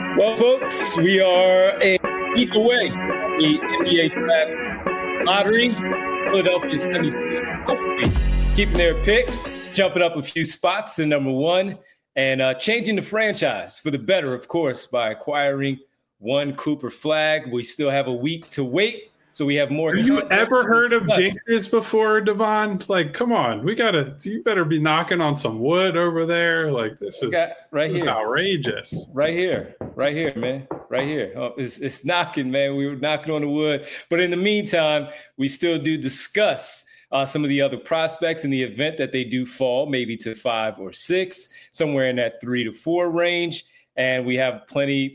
Well, folks, we are a week away from the NBA Draft Lottery. Philadelphia 76ers hopefully keeping their pick, jumping up a few spots to number one, and changing the franchise for the better, of course, by acquiring one Cooper Flagg. We still have a week to wait. So we have more. Have you ever heard of jinxes before, Devon? Like, come on, you better be knocking on some wood over there. Like, this is outrageous. Right here, man. Right here. Oh, it's knocking, man. We were knocking on the wood. But in the meantime, we still do discuss some of the other prospects in the event that they do fall, maybe to 5 or 6, somewhere in that 3 to 4 range. And we have plenty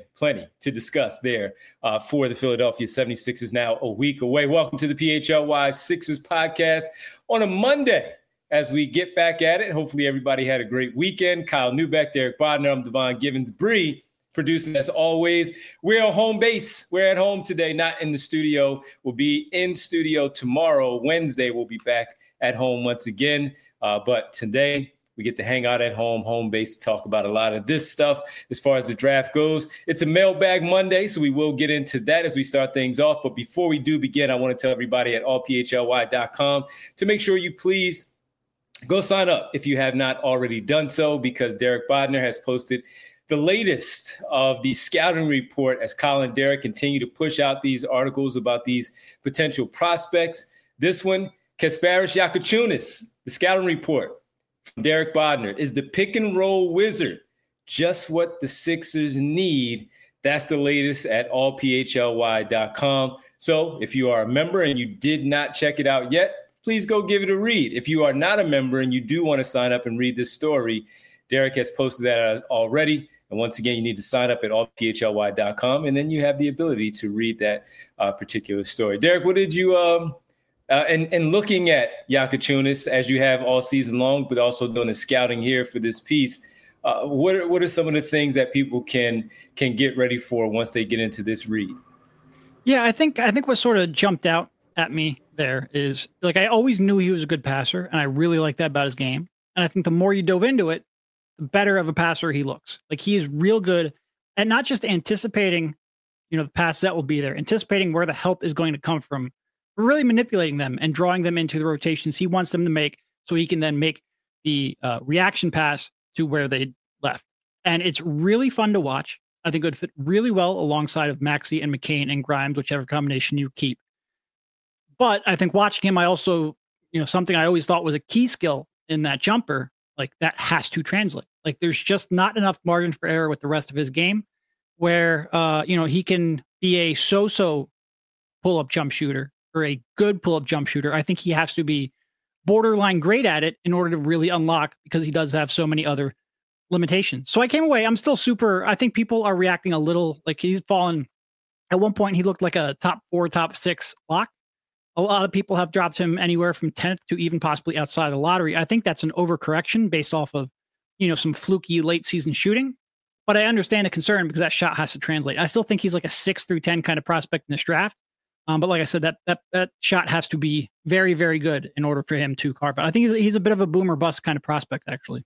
to discuss there for the Philadelphia 76ers now a week away. Welcome to the PHLY Sixers podcast on a Monday as we get back at it. Hopefully everybody had a great weekend. Kyle Neubeck, Derek Bodner, I'm Devon Givens. Bree producing as always. We're on home base. We're at home today, not in the studio. We'll be in studio tomorrow. Wednesday, we'll be back at home once again. But today, we get to hang out at home base, to talk about a lot of this stuff as far as the draft goes. It's a mailbag Monday, so we will get into that as we start things off. But before we do begin, I want to tell everybody at allphly.com to make sure you please go sign up if you have not already done so, because Derek Bodner has posted the latest of the scouting report as Kyle and Derek continue to push out these articles about these potential prospects. This one, Kasparas Jakučiūnas, the scouting report. Derek Bodner, is the pick and roll wizard just what the Sixers need? That's the latest at allphly.com. So if you are a member and you did not check it out yet, please go give it a read. If you are not a member and you do want to sign up and read this story, Derek has posted that already. And once again, you need to sign up at allphly.com, and then you have the ability to read that particular story. Derek, what did you and looking at Jakučiūnas as you have all season long, but also doing the scouting here for this piece, what are some of the things that people can get ready for once they get into this read? Yeah, I think what sort of jumped out at me there is, like, I always knew he was a good passer, and I really like that about his game. And I think the more you dove into it, the better of a passer he looks. Like, he is real good at not just anticipating, the pass that will be there, anticipating where the help is going to come from, really manipulating them and drawing them into the rotations he wants them to make, so he can then make the reaction pass to where they left. And it's really fun to watch. I think it would fit really well alongside of Maxey and McCain and Grimes, whichever combination you keep. But I think watching him, I also, something I always thought was a key skill in that jumper, like, that has to translate. Like, there's just not enough margin for error with the rest of his game where, he can be a so-so pull-up jump shooter, or a good pull-up jump shooter. I think he has to be borderline great at it in order to really unlock, because he does have so many other limitations. So I came away, I'm still I think people are reacting a little like he's fallen. At one point, he looked like a top 4, top 6 lock. A lot of people have dropped him anywhere from 10th to even possibly outside the lottery. I think that's an overcorrection based off of, some fluky late season shooting. But I understand the concern because that shot has to translate. I still think he's like a 6 through 10 kind of prospect in this draft. But like I said, that shot has to be very, very good in order for him to carve out. I think he's a bit of a boomer bust kind of prospect, actually.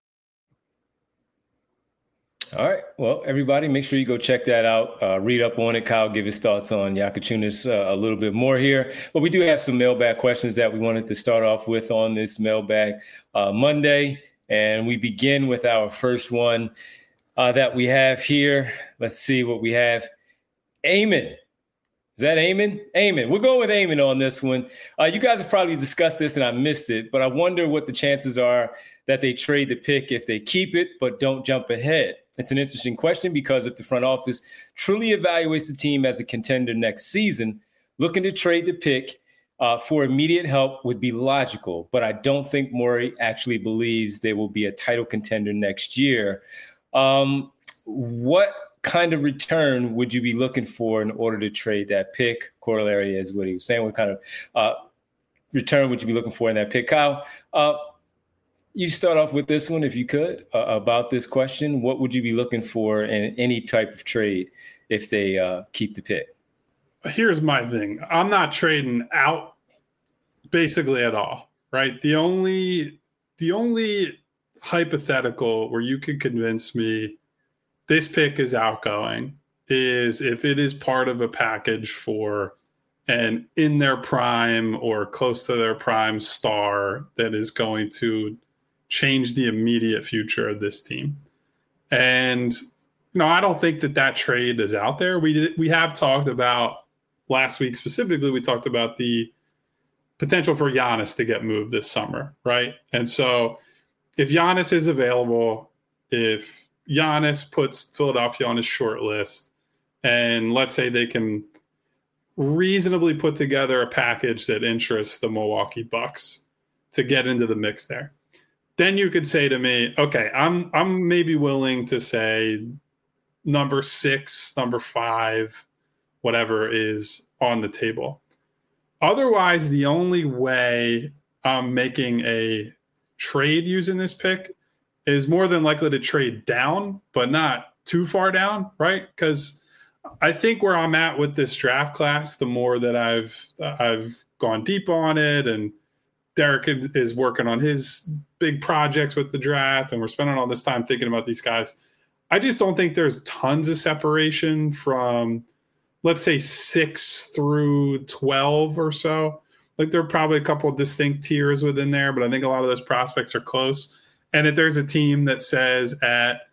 All right. Well, everybody, make sure you go check that out. Read up on it. Kyle give his thoughts on Jakučiūnas a little bit more here. But we do have some mailbag questions that we wanted to start off with on this mailbag Monday. And we begin with our first one that we have here. Let's see what we have. Eamon. Is that Eamon? Eamon. We're going with Eamon on this one. You guys have probably discussed this and I missed it, but I wonder what the chances are that they trade the pick if they keep it but don't jump ahead. It's an interesting question because if the front office truly evaluates the team as a contender next season, looking to trade the pick for immediate help would be logical, but I don't think Morey actually believes they will be a title contender next year. What kind of return would you be looking for in order to trade that pick? Corollary is what he was saying. What kind of return would you be looking for in that pick? Kyle, you start off with this one, if you could, about this question. What would you be looking for in any type of trade if they keep the pick? Here's my thing. I'm not trading out basically at all, right? The only hypothetical where you could convince me this pick is outgoing is if it is part of a package for an in their prime or close to their prime star that is going to change the immediate future of this team. And, I don't think that trade is out there. We have talked about last week specifically, we talked about the potential for Giannis to get moved this summer, right? And so if Giannis is available, if Giannis puts Philadelphia on his short list, and let's say they can reasonably put together a package that interests the Milwaukee Bucks to get into the mix there, then you could say to me, okay, I'm maybe willing to say number 6, number 5, whatever is on the table. Otherwise, the only way I'm making a trade using this pick is more than likely to trade down, but not too far down, right? Because I think where I'm at with this draft class, the more that I've gone deep on it, and Derek is working on his big projects with the draft, and we're spending all this time thinking about these guys, I just don't think there's tons of separation from, let's say, 6 through 12 or so. Like, there are probably a couple of distinct tiers within there, but I think a lot of those prospects are close. And if there's a team that says at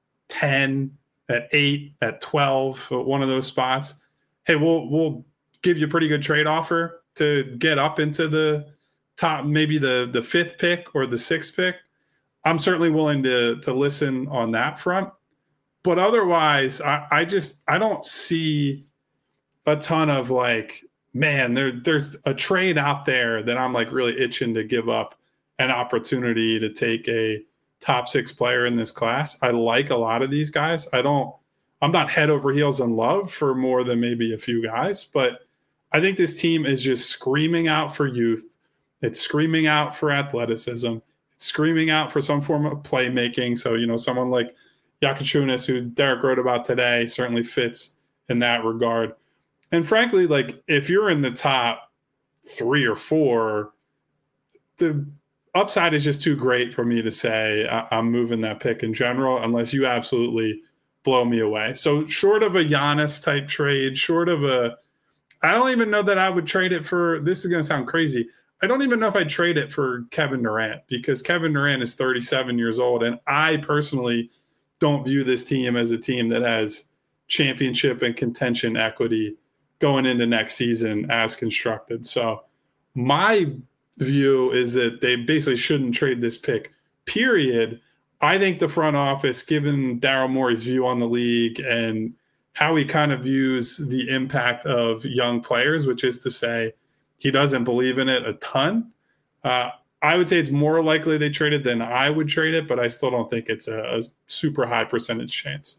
10, at 8, at 12, at one of those spots, hey, we'll give you a pretty good trade offer to get up into the top, maybe the 5th pick or the 6th pick, I'm certainly willing to listen on that front. But otherwise, I don't see a ton of like, man, there's a trade out there that I'm like really itching to give up an opportunity to take a top 6 player in this class. I like a lot of these guys. I'm not head over heels in love for more than maybe a few guys, but I think this team is just screaming out for youth. It's screaming out for athleticism. It's screaming out for some form of playmaking. So, someone like Jakučiūnas, who Derek wrote about today, certainly fits in that regard. And frankly, like, if you're in the top 3 or 4, the upside is just too great for me to say I'm moving that pick in general, unless you absolutely blow me away. So short of a Giannis type trade, I don't even know that I would trade it for, this is going to sound crazy, I don't even know if I'd trade it for Kevin Durant, because Kevin Durant is 37 years old, and I personally don't view this team as a team that has championship and contention equity going into next season as constructed. So my view is that they basically shouldn't trade this pick, period. I think the front office, given Daryl Morey's view on the league and how he kind of views the impact of young players, which is to say he doesn't believe in it a ton, I would say it's more likely they trade it than I would trade it, but I still don't think it's a super high percentage chance.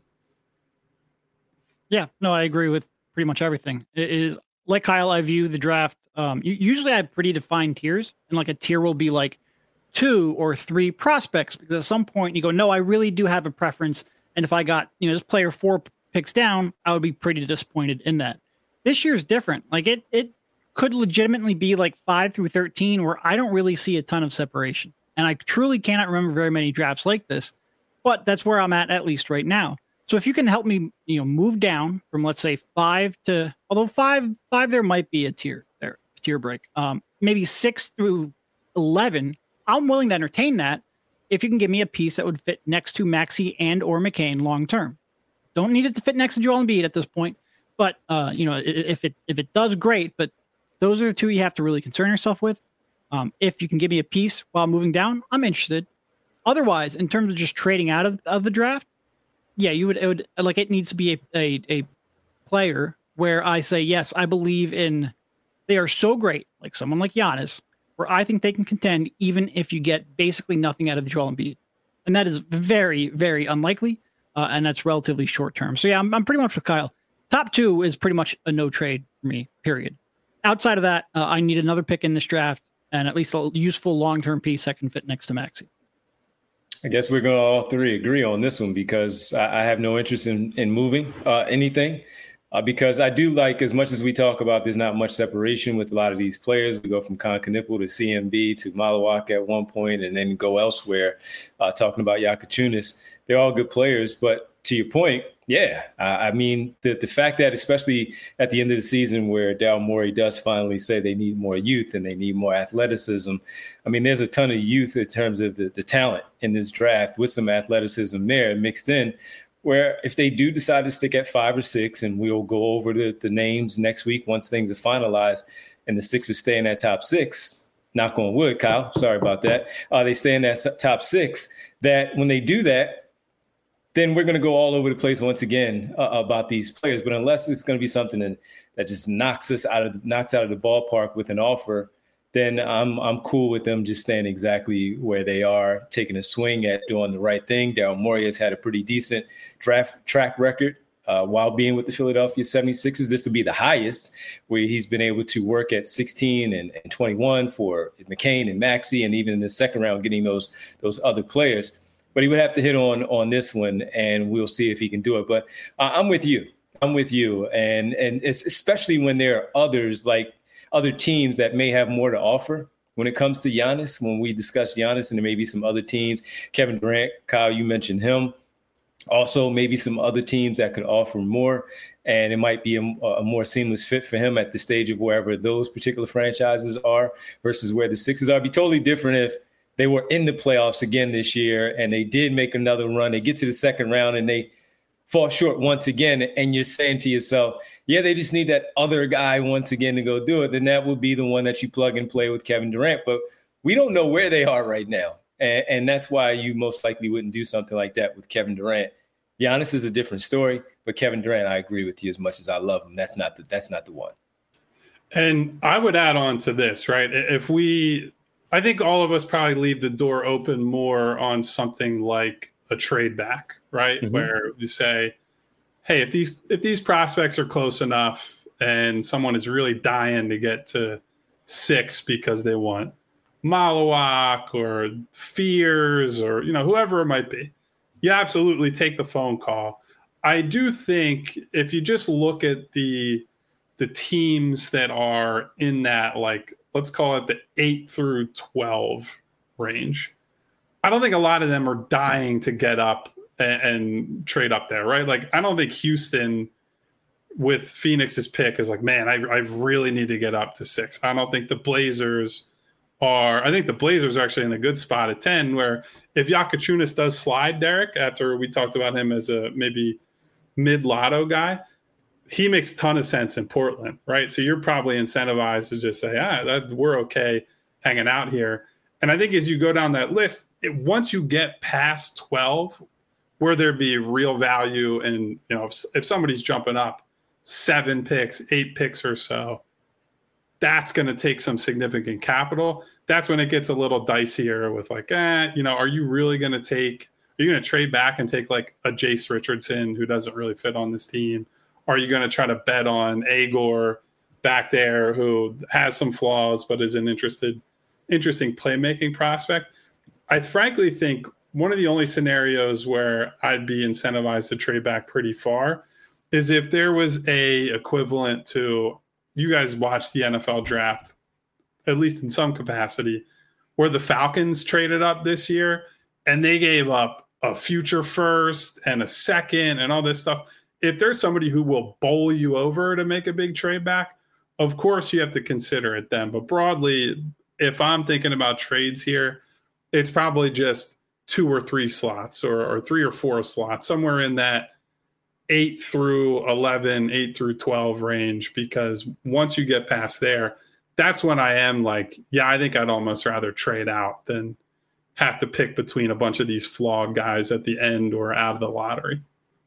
Yeah, no, I agree with pretty much everything. It is like Kyle, I view the draft. Usually I have pretty defined tiers, and like a tier will be like 2 or 3 prospects, because at some point you go, no, I really do have a preference. And if I got, this player 4 picks down, I would be pretty disappointed in that. This year's different. Like it could legitimately be like 5 through 13 where I don't really see a ton of separation. And I truly cannot remember very many drafts like this, but that's where I'm at least right now. So if you can help me, move down from, let's say 5 to, although 5 there might be a tier break, maybe 6 through 11, I'm willing to entertain that if you can give me a piece that would fit next to Maxey and or McCain long term. Don't need it to fit next to Joel Embiid at this point, but if it does, great. But those are the 2 you have to really concern yourself with. If you can give me a piece while moving down, I'm interested. Otherwise, in terms of just trading out of the draft, yeah, it needs to be a player where I say, yes, I believe in, they are so great, like someone like Giannis, where I think they can contend even if you get basically nothing out of Joel Embiid. And that is very, very unlikely, and that's relatively short term. So yeah, I'm pretty much with Kyle. Top 2 is pretty much a no trade for me, period. Outside of that, I need another pick in this draft and at least a useful long-term piece that can fit next to Maxey. I guess we're going to all 3 agree on this one, because I have no interest in moving anything, because I do like, as much as we talk about there's not much separation with a lot of these players. We go from Concanipo to CMB to Malawak at one point and then go elsewhere, talking about Jakučiūnas. They're all good players, but to your point, yeah. I mean, the fact that especially at the end of the season where Daryl Morey does finally say they need more youth and they need more athleticism, I mean, there's a ton of youth in terms of the talent in this draft with some athleticism there mixed in, where if they do decide to stick at 5 or 6, and we'll go over the names next week once things are finalized, and the Sixers stay in that top 6, knock on wood, Kyle, sorry about that, they stay in that top 6, that when they do that, then we're going to go all over the place once again about these players. But unless it's going to be something that just knocks out of the ballpark with an offer, then I'm cool with them just staying exactly where they are, taking a swing at doing the right thing. Daryl Morey has had a pretty decent draft track record while being with the Philadelphia 76ers. This will be the highest where he's been able to work at 16 and 21 for McCain and Maxey, and even in the second round getting those other players. But he would have to hit on this one, and we'll see if he can do it. But I'm with you. And it's especially when there are others, like other teams that may have more to offer when it comes to Giannis. When we discuss Giannis, and there may be some other teams, Kevin Durant, Kyle, you mentioned him. Also, maybe some other teams that could offer more, and it might be a more seamless fit for him at the stage of wherever those particular franchises are versus where the Sixers are. It'd be totally different if they were in the playoffs again this year and they did make another run. They get to the second round and they fall short once again. And you're saying to yourself, yeah, they just need that other guy once again to go do it. Then that would be the one that you plug and play with Kevin Durant. But we don't know where they are right now. And that's why you most likely wouldn't do something like that with Kevin Durant. Giannis is a different story, but Kevin Durant, I agree with you as much as I love him. That's not the one. And I would add on to this, right? I think all of us probably leave the door open more on something like a trade back, right? Mm-hmm. Where you say, hey, if these prospects are close enough and someone is really dying to get to 6 because they want Malawak or Fears or, whoever it might be, you absolutely take the phone call. I do think if you just look at the teams that are in that, like, let's call it the 8 through 12 range, I don't think a lot of them are dying to get up and trade up there, right? Like, I don't think Houston with Phoenix's pick is like, man, I really need to get up to 6. I don't think the Blazers are. I think the Blazers are actually in a good spot at 10, where if Jakučiūnas does slide, Derek, after we talked about him as a maybe mid-lotto guy, he makes a ton of sense in Portland, right? So you're probably incentivized to just say, we're okay hanging out here. And I think as you go down that list, once you get past 12, where there'd be real value, and if somebody's jumping up 7 picks, 8 picks or so, that's going to take some significant capital. That's when it gets a little dicier with like, are you really going to trade back and take like a Jace Richardson who doesn't really fit on this team? Are you going to try to bet on Agor back there who has some flaws but is an interesting playmaking prospect? I frankly think one of the only scenarios where I'd be incentivized to trade back pretty far is if there was a equivalent to, you guys watched the NFL draft, at least in some capacity, where the Falcons traded up this year and they gave up a future first and a second and all this stuff. If there's somebody who will bowl you over to make a big trade back, of course you have to consider it then. But broadly, if I'm thinking about trades here, it's probably just 2 or 3 slots or 3 or 4 slots, somewhere in that 8 through 11, 8 through 12 range, because once you get past there, that's when I am like, yeah, I think I'd almost rather trade out than have to pick between a bunch of these flawed guys at the end or out of the lottery.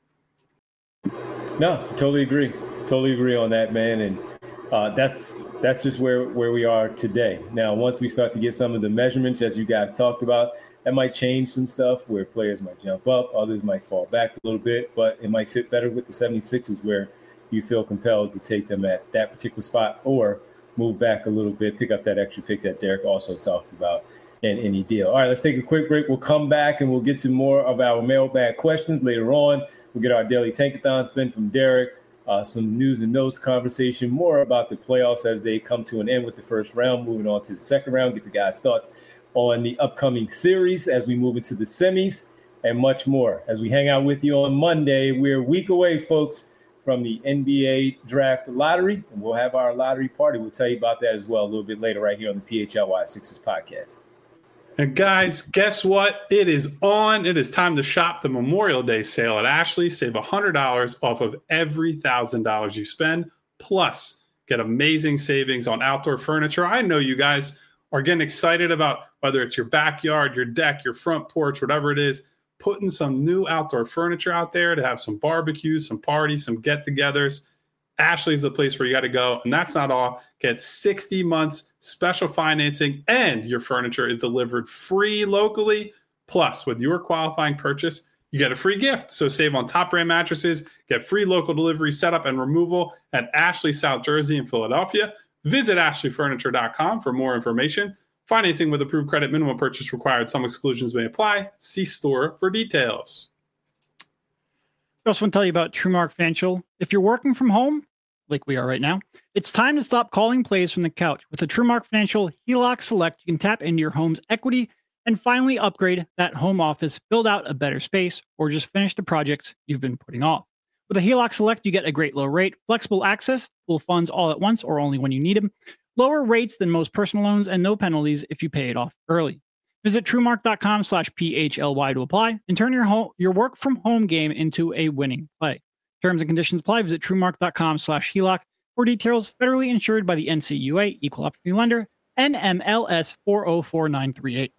No, totally agree on that, man. And that's just where we are today. Now, once we start to get some of the measurements, as you guys talked about, that might change some stuff where players might jump up, others might fall back a little bit, but it might fit better with the 76ers where you feel compelled to take them at that particular spot or move back a little bit, pick up that extra pick that Derek also talked about in any deal. All right, let's take a quick break. We'll come back and we'll get to more of our mailbag questions later on. We'll get our daily Tankathon spin from Derek, some news and notes conversation, more about the playoffs as they come to an end with the first round, moving on to the second round, get the guys' thoughts on the upcoming series as we move into the semis. and much more. As we hang out with you on Monday, we're a week away, folks, from the NBA Draft Lottery, and we'll have our lottery party. We'll tell you about that as well a little bit later right here on the PHLY Sixers podcast. And guys, guess what? It is on. It is time to shop the Memorial Day sale at Ashley. Save $100 off of every $1,000 you spend. Plus, get amazing savings on outdoor furniture. I know you guys are getting excited about whether it's your backyard, your deck, your front porch, whatever it is, putting some new outdoor furniture out there to have some barbecues, some parties, some get-togethers. Ashley's the place where you got to go. And that's not all. Get 60 months special financing, and your furniture is delivered free locally. Plus, with your qualifying purchase, you get a free gift. So save on top brand mattresses, get free local delivery, setup, and removal at Ashley, South Jersey, and Philadelphia. Visit ashleyfurniture.com for more information. Financing with approved credit, minimum purchase required. Some exclusions may apply. See store for details. I also want to tell you about TrueMark Financial. If you're working from home, like we are right now, it's time to stop calling plays from the couch. With the TrueMark Financial HELOC Select, you can tap into your home's equity and finally upgrade that home office, build out a better space, or just finish the projects you've been putting off. With a HELOC Select, you get a great low rate, flexible access, pull funds all at once or only when you need them, lower rates than most personal loans, and no penalties if you pay it off early. Visit TrueMark.com/PHLY to apply and turn your work from home game into a winning play. Terms and conditions apply. Visit TrueMark.com/HELOC for details. Federally insured by the NCUA, Equal Opportunity Lender, NMLS 404938.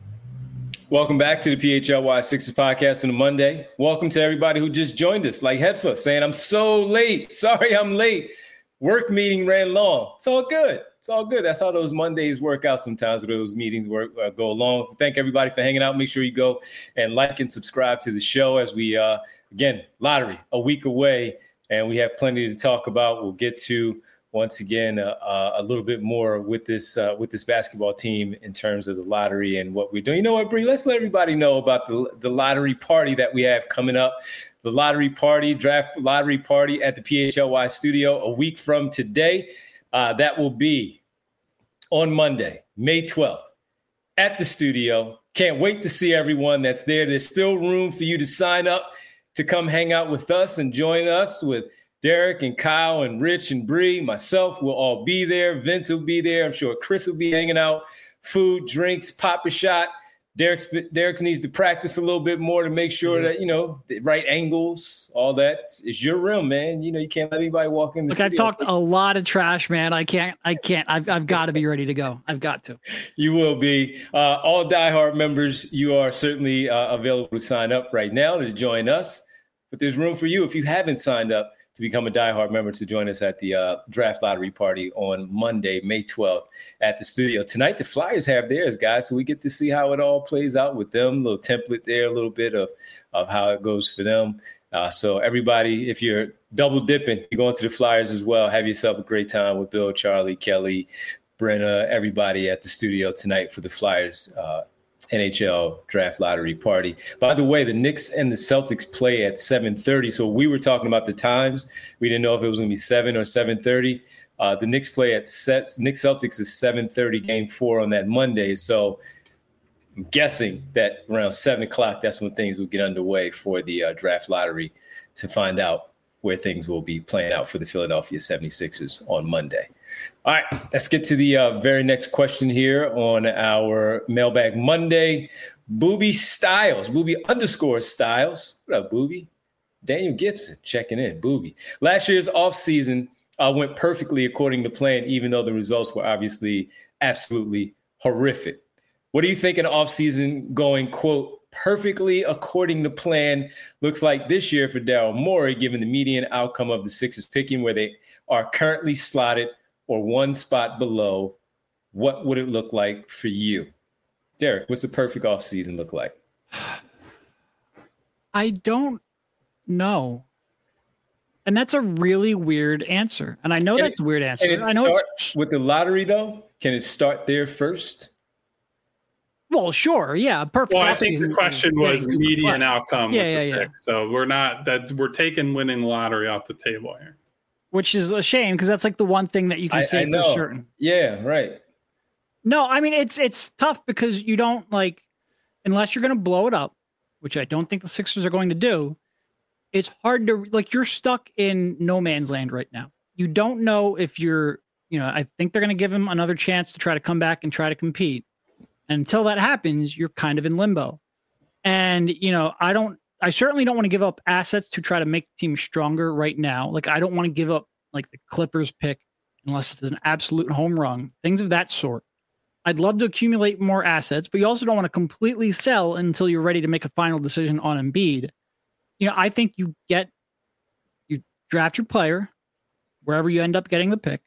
Welcome back to the PHLY Sixers podcast on a Monday. Welcome to everybody who just joined us, like Hedfa saying, I'm so late. Sorry, I'm late. Work meeting ran long. It's all good. It's all good. That's how those Mondays work out sometimes, where those meetings go along. Thank everybody for hanging out. Make sure you go and like and subscribe to the show as we, again, lottery, a week away, and we have plenty to talk about. We'll get to, once again, a little bit more with this basketball team in terms of the lottery and what we're doing. You know what, Bree? Let's let everybody know about the lottery party that we have coming up. The lottery party, draft lottery party at the PHLY studio a week from today. That will be on Monday, May 12th at the studio. Can't wait to see everyone that's there. There's still room for you to sign up to come hang out with us and join us with Derek and Kyle and Rich and Bree. Myself will all be there. Vince will be there. I'm sure Chris will be hanging out. Food, drinks, pop a shot. Derek needs to practice a little bit more to make sure that, the right angles, all that is your room, man. You can't let anybody walk in the studio. I've talked a lot of trash, man. I can't. I've got to be ready to go. I've got to. You will be. All diehard members, you are certainly available to sign up right now to join us. But there's room for you if you haven't signed up to become a diehard member to join us at the draft lottery party on Monday, May 12th at the studio. Tonight, the Flyers have theirs, guys, so we get to see how it all plays out with them. A little template there, a little bit of how it goes for them. So everybody, if you're double dipping, you're going to the Flyers as well. Have yourself a great time with Bill, Charlie, Kelly, Brenna, everybody at the studio tonight for the Flyers NHL draft lottery party. By the way, the Knicks and the Celtics play at 7:30. So we were talking about the times. We didn't know if it was going to be 7 or 7:30. The Knicks play at Knicks Celtics is 7:30 game 4 on that Monday. So I'm guessing that around 7 o'clock, that's when things will get underway for the draft lottery to find out where things will be playing out for the Philadelphia 76ers on Monday. All right, let's get to the very next question here on our Mailbag Monday. Booby Styles, Booby_Styles. What up, Booby? Daniel Gibson checking in. Booby. Last year's offseason went perfectly according to plan, even though the results were obviously absolutely horrific. What do you think an offseason going, quote, perfectly according to plan looks like this year for Daryl Morey, given the median outcome of the Sixers picking where they are currently slotted or one spot below? What would it look like for you? Derek, what's the perfect offseason look like? I don't know. And that's a really weird answer. And I know that's a weird answer. Can it start with the lottery, though? Can it start there first? Well, sure. Yeah. Perfect. Well, I think the question was median outcome. Yeah. So we're taking winning the lottery off the table here. Which is a shame because that's like the one thing that you can say for certain. Yeah, right. No, I mean, it's tough because you don't unless you're going to blow it up, which I don't think the Sixers are going to do, it's hard to, like, you're stuck in no man's land right now. You don't know if I think they're going to give him another chance to try to come back and try to compete. And until that happens, you're kind of in limbo. And, I certainly don't want to give up assets to try to make the team stronger right now. Like, I don't want to give up like the Clippers pick unless it's an absolute home run, things of that sort. I'd love to accumulate more assets, but you also don't want to completely sell until you're ready to make a final decision on Embiid. I think you draft your player wherever you end up getting the pick.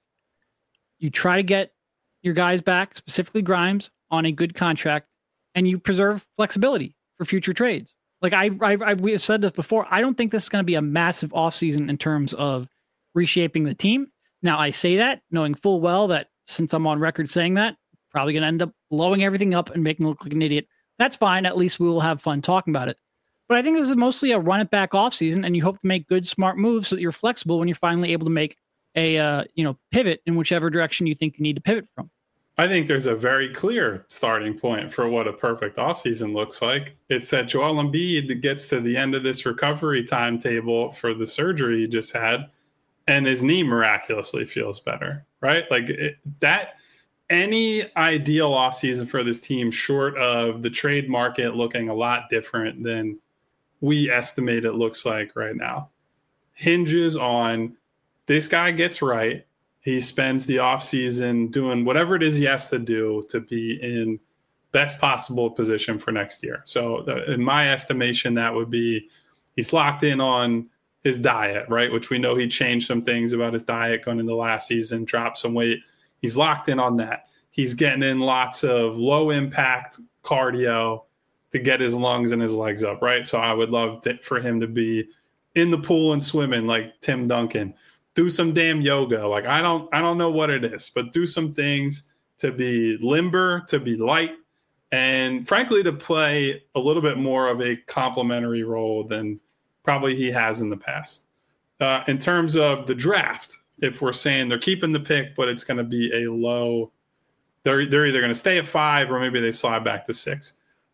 You try to get your guys back, specifically Grimes, on a good contract, and you preserve flexibility for future trades. Like we have said this before, I don't think this is going to be a massive offseason in terms of reshaping the team. Now, I say that knowing full well that since I'm on record saying that, probably going to end up blowing everything up and making me look like an idiot. That's fine. At least we will have fun talking about it. But I think this is mostly a run it back offseason, and you hope to make good, smart moves so that you're flexible when you're finally able to make a pivot in whichever direction you think you need to pivot from. I think there's a very clear starting point for what a perfect offseason looks like. It's that Joel Embiid gets to the end of this recovery timetable for the surgery he just had, and his knee miraculously feels better, right? Like that. Any ideal offseason for this team, short of the trade market looking a lot different than we estimate it looks like right now, hinges on this guy gets right. He spends the offseason doing whatever it is he has to do to be in best possible position for next year. So in my estimation, that would be he's locked in on his diet, right? Which we know he changed some things about his diet going into last season, dropped some weight. He's locked in on that. He's getting in lots of low impact cardio to get his lungs and his legs up, right? So I would love for him to be in the pool and swimming like Tim Duncan. Do some damn yoga. Like I don't know what it is, but do some things to be limber, to be light, and frankly to play a little bit more of a complementary role than probably he has in the past. In terms of the draft, if we're saying they're keeping the pick, but it's going to be a low, they're either going to stay at 5 or maybe they slide back to 6.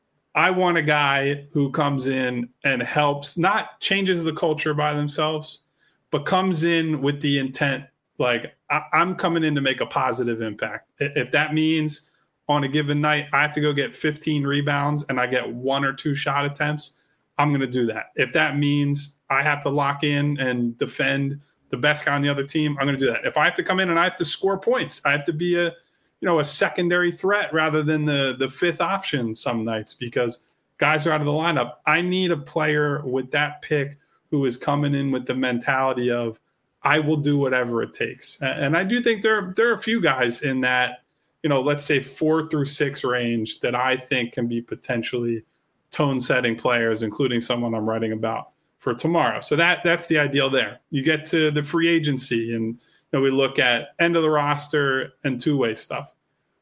I want a guy who comes in and helps, not changes the culture by themselves, but comes in with the intent, like I'm coming in to make a positive impact. If that means on a given night, I have to go get 15 rebounds and I get 1 or 2 shot attempts, I'm going to do that. If that means I have to lock in and defend the best guy on the other team, I'm going to do that. If I have to come in and I have to score points, I have to be a secondary threat rather than the fifth option some nights because guys are out of the lineup. I need a player with that pick who is coming in with the mentality of I will do whatever it takes. And I do think there are a few guys in that, let's say 4 through 6 range that I think can be potentially tone-setting players, including someone I'm writing about for tomorrow. So that's the ideal there. You get to the free agency and we look at end of the roster and two-way stuff.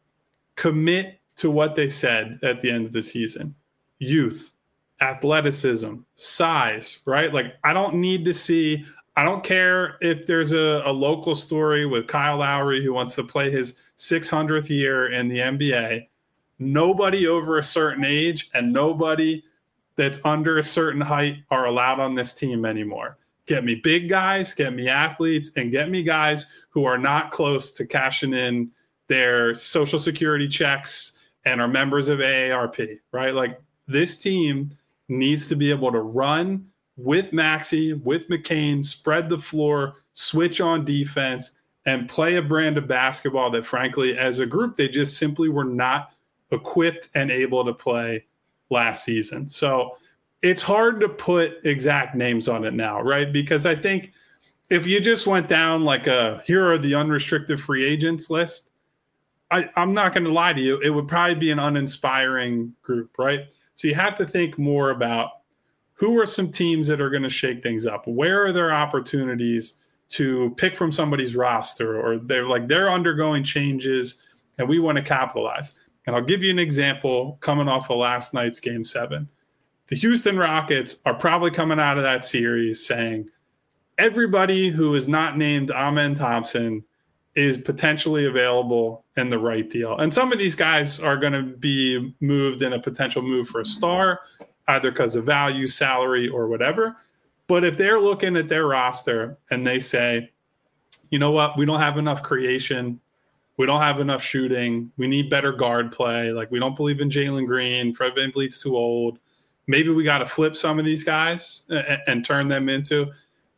Commit to what they said at the end of the season. Youth, athleticism, size, right? Like I don't need to see, I don't care if there's a local story with Kyle Lowry who wants to play his 600th year in the NBA. Nobody over a certain age and nobody that's under a certain height are allowed on this team anymore. Get me big guys, get me athletes, and get me guys who are not close to cashing in their Social Security checks and are members of AARP, right? Like this team needs to be able to run with Maxey, with McCain, spread the floor, switch on defense, and play a brand of basketball that, frankly, as a group, they just simply were not equipped and able to play last season. So it's hard to put exact names on it now, right? Because I think if you just went down like here are the unrestricted free agents list, I'm not going to lie to you, it would probably be an uninspiring group, right? So you have to think more about who are some teams that are going to shake things up? Where are there opportunities to pick from somebody's roster, or they're undergoing changes and we want to capitalize? And I'll give you an example coming off of last night's Game 7. The Houston Rockets are probably coming out of that series saying everybody who is not named Amen Thompson is potentially available in the right deal. And some of these guys are going to be moved in a potential move for a star. either because of value, salary, or whatever. But if they're looking at their roster and they say, you know what, we don't have enough creation, we don't have enough shooting, we need better guard play, like we don't believe in Jalen Green, Fred VanVleet's too old, maybe we got to flip some of these guys and turn them into,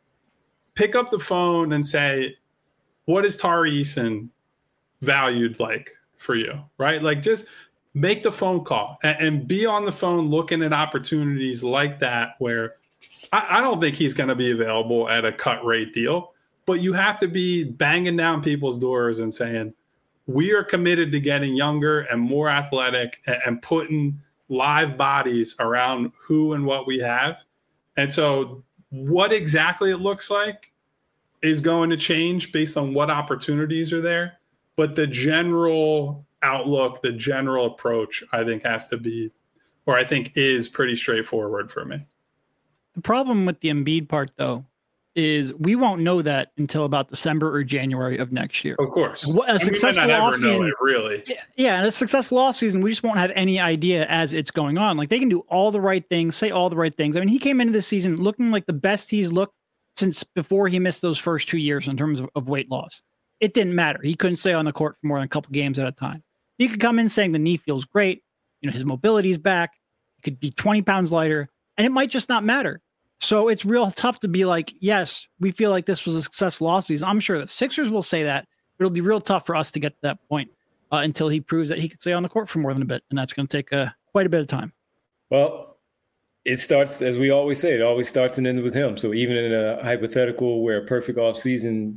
pick up the phone and say, what is Tari Eason valued like for you, right? Like just make the phone call and be on the phone looking at opportunities like that where I don't think he's going to be available at a cut rate deal, but you have to be banging down people's doors and saying, we are committed to getting younger and more athletic and putting live bodies around who and what we have. And so what exactly it looks like is going to change based on what opportunities are there. But the general outlook, the general approach, I think has to be, or I think is pretty straightforward for me. The problem with the Embiid part, though, is we won't know that until about December or January of next year. Of course. A successful offseason, really. Yeah, and a successful offseason, we just won't have any idea as it's going on. Like, they can do all the right things, say all the right things. I mean, he came into this season looking like the best he's looked since before he missed those first 2 years in terms of weight loss. It didn't matter. He couldn't stay on the court for more than a couple games at a time. He could come in saying the knee feels great, his mobility's back, he could be 20 pounds lighter, and it might just not matter. So it's real tough to be like, yes, we feel like this was a successful offseason. I'm sure the Sixers will say that, but it'll be real tough for us to get to that point until he proves that he can stay on the court for more than a bit, and that's going to take quite a bit of time. Well, it starts, as we always say, it always starts and ends with him. So even in a hypothetical where a perfect offseason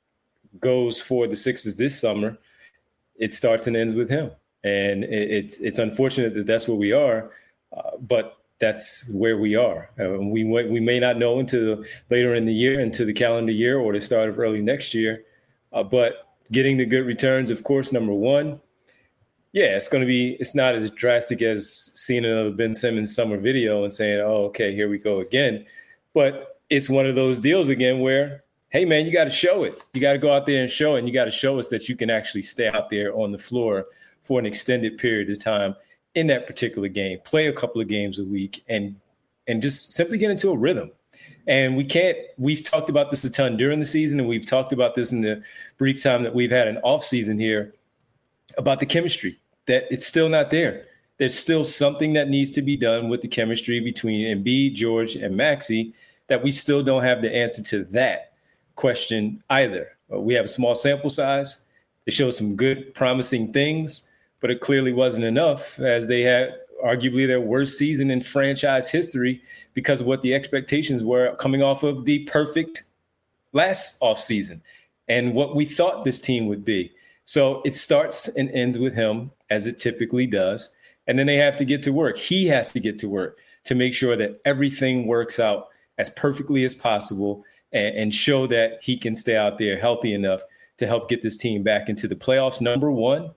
goes for the Sixers this summer, it starts and ends with him. And it's unfortunate that that's where we are, but that's where we are. We may not know until later in the year, into the calendar year or the start of early next year. But getting the good returns, of course, number one, yeah, it's not as drastic as seeing another Ben Simmons summer video and saying, oh, okay, here we go again. But it's one of those deals again where, hey, man, you got to show it. You got to go out there and show it. And you got to show us that you can actually stay out there on the floor for an extended period of time in that particular game, play a couple of games a week and just simply get into a rhythm. And we've talked about this a ton during the season, and we've talked about this in the brief time that we've had an off season here about the chemistry, that it's still not there. There's still something that needs to be done with the chemistry between Embiid, George, and Maxey that we still don't have the answer to that question either. We have a small sample size. It shows some good, promising things, but it clearly wasn't enough, as they had arguably their worst season in franchise history because of what the expectations were coming off of the perfect last offseason and what we thought this team would be. So it starts and ends with him, as it typically does, and then they have to get to work. He has to get to work to make sure that everything works out as perfectly as possible and show that he can stay out there healthy enough to help get this team back into the playoffs, number one.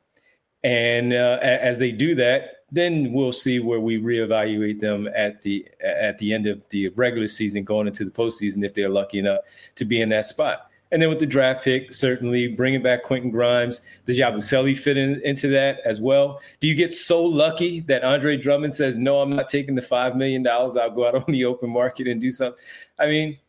And as they do that, then we'll see where we reevaluate them at the end of the regular season, going into the postseason, if they're lucky enough to be in that spot. And then with the draft pick, certainly bringing back Quentin Grimes, does Yabusele fit into that as well? Do you get so lucky that Andre Drummond says, no, I'm not taking the $5 million. I'll go out on the open market and do something. I mean,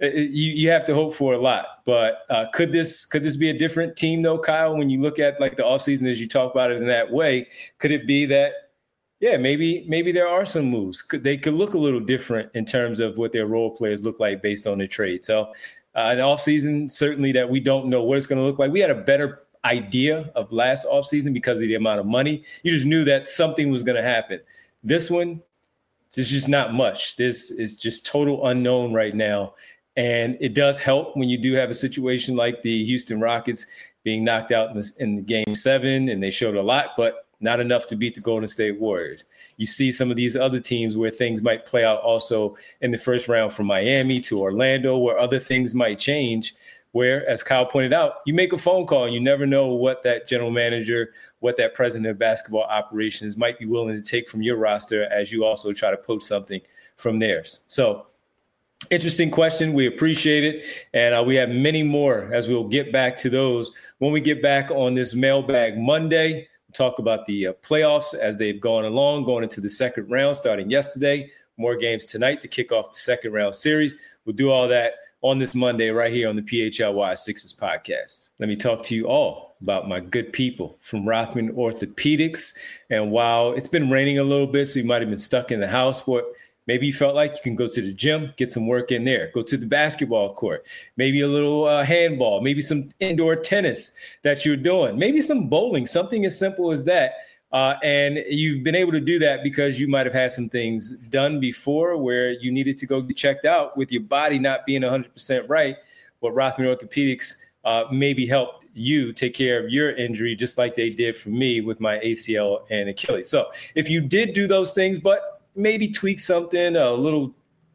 you have to hope for a lot, but could this be a different team though, Kyle? When you look at like the offseason, as you talk about it in that way, could it be that, yeah, maybe there are some moves. They could look a little different in terms of what their role players look like based on the trade. So an offseason, certainly that we don't know what it's going to look like. We had a better idea of last offseason because of the amount of money. You just knew that something was going to happen. This one, there's just not much. This is just total unknown right now. And it does help when you do have a situation like the Houston Rockets being knocked out in the Game 7, and they showed a lot, but not enough to beat the Golden State Warriors. You see some of these other teams where things might play out also in the first round, from Miami to Orlando, where other things might change, where, as Kyle pointed out, you make a phone call and you never know what that general manager, what that president of basketball operations might be willing to take from your roster as you also try to poach something from theirs. So, interesting question. We appreciate it. And we have many more as we'll get back to those when we get back on this Mailbag Monday. We'll talk about the playoffs as they've gone along, going into the second round starting yesterday. more games tonight to kick off the second round series. We'll do all that on this Monday right here on the PHLY Sixers podcast. Let me talk to you all about my good people from Rothman Orthopedics. And while it's been raining a little bit, so you might have been stuck in the house, but maybe you felt like you can go to the gym, get some work in there, go to the basketball court, maybe a little handball, maybe some indoor tennis that you're doing, maybe some bowling, something as simple as that. And you've been able to do that because you might have had some things done before where you needed to go get checked out with your body not being 100% right. But Rothman Orthopedics maybe helped you take care of your injury just like they did for me with my ACL and Achilles. So if you did do those things, but maybe tweak something, a little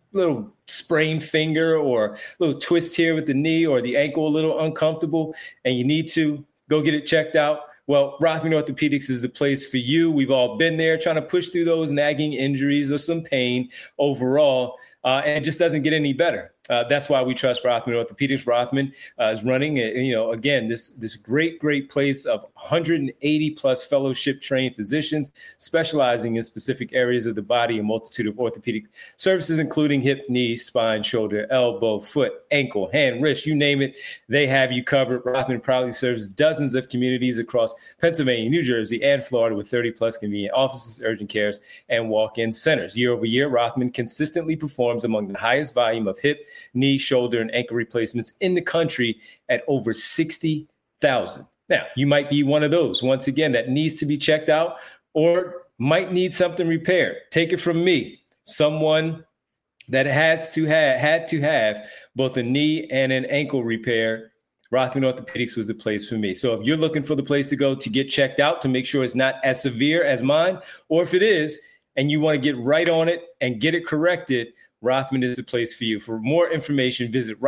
sprained finger or a little twist here with the knee or the ankle a little uncomfortable, and you need to go get it checked out, well, Rothman Orthopedics is the place for you. We've all been there trying to push through those nagging injuries or some pain overall, and it just doesn't get any better. That's why we trust Rothman Orthopedics. Rothman is running, again, this great place of 180 plus fellowship trained physicians specializing in specific areas of the body, a multitude of orthopedic services, including hip, knee, spine, shoulder, elbow, foot, ankle, hand, wrist, you name it. They have you covered. Rothman proudly serves dozens of communities across Pennsylvania, New Jersey, and Florida with 30 plus convenient offices, urgent cares, and walk-in centers. Year over year, Rothman consistently performs among the highest volume of hip, knee, shoulder, and ankle replacements in the country at over 60,000. Now, you might be one of those, once again, that needs to be checked out or might need something repaired. Take it from me, someone that had to have both a knee and an ankle repair. Rothman Orthopedics was the place for me. So if you're looking for the place to go to get checked out to make sure it's not as severe as mine, or if it is, and you want to get right on it and get it corrected, Rothman is the place for you. For more information, visit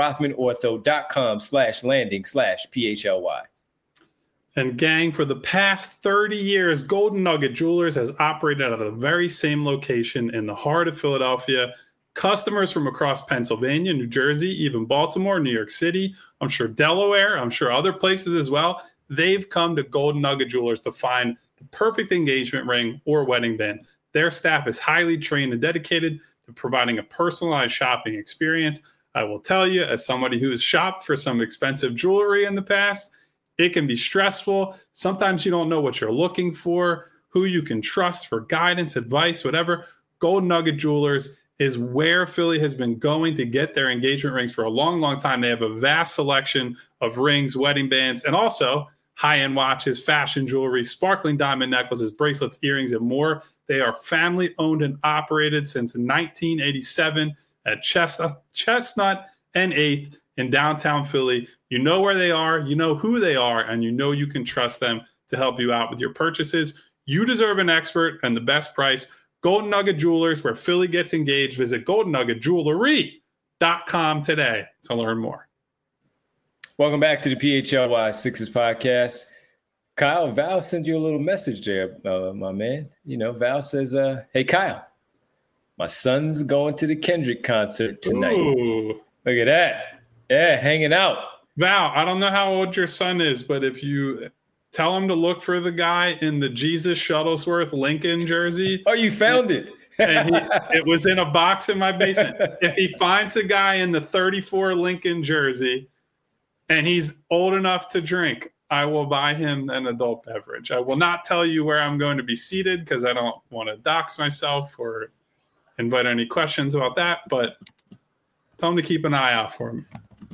rothmanortho.com/landing/PHLY. And gang, for the past 30 years, Golden Nugget Jewelers has operated out of the very same location in the heart of Philadelphia. Customers from across Pennsylvania, New Jersey, even Baltimore, New York City, I'm sure Delaware, I'm sure other places as well, they've come to Golden Nugget Jewelers to find the perfect engagement ring or wedding band. Their staff is highly trained and dedicated to providing a personalized shopping experience. I will tell you, as somebody who's shopped for some expensive jewelry in the past, it can be stressful. Sometimes you don't know what you're looking for, who you can trust for guidance, advice, whatever. Golden Nugget Jewelers is where Philly has been going to get their engagement rings for a long, long time. They have a vast selection of rings, wedding bands, and also high-end watches, fashion jewelry, sparkling diamond necklaces, bracelets, earrings, and more. They are family-owned and operated since 1987 at Chestnut and 8th in downtown Philly. You know where they are, you know who they are, and you know you can trust them to help you out with your purchases. You deserve an expert and the best price. Golden Nugget Jewelers, where Philly gets engaged. Visit goldennuggetjewelry.com today to learn more. Welcome back to the PHLY Sixers podcast. Kyle, Val sent you a little message there, my man. You know, Val says, hey, Kyle, my son's going to the Kendrick concert tonight. Ooh. Look at that. Yeah, hanging out. Val, I don't know how old your son is, but if you tell him to look for the guy in the Jesus Shuttlesworth Lincoln jersey. Oh, you found it. And it was in a box in my basement. If he finds the guy in the 34 Lincoln jersey and he's old enough to drink, I will buy him an adult beverage. I will not tell you where I'm going to be seated because I don't want to dox myself or invite any questions about that, but tell him to keep an eye out for me.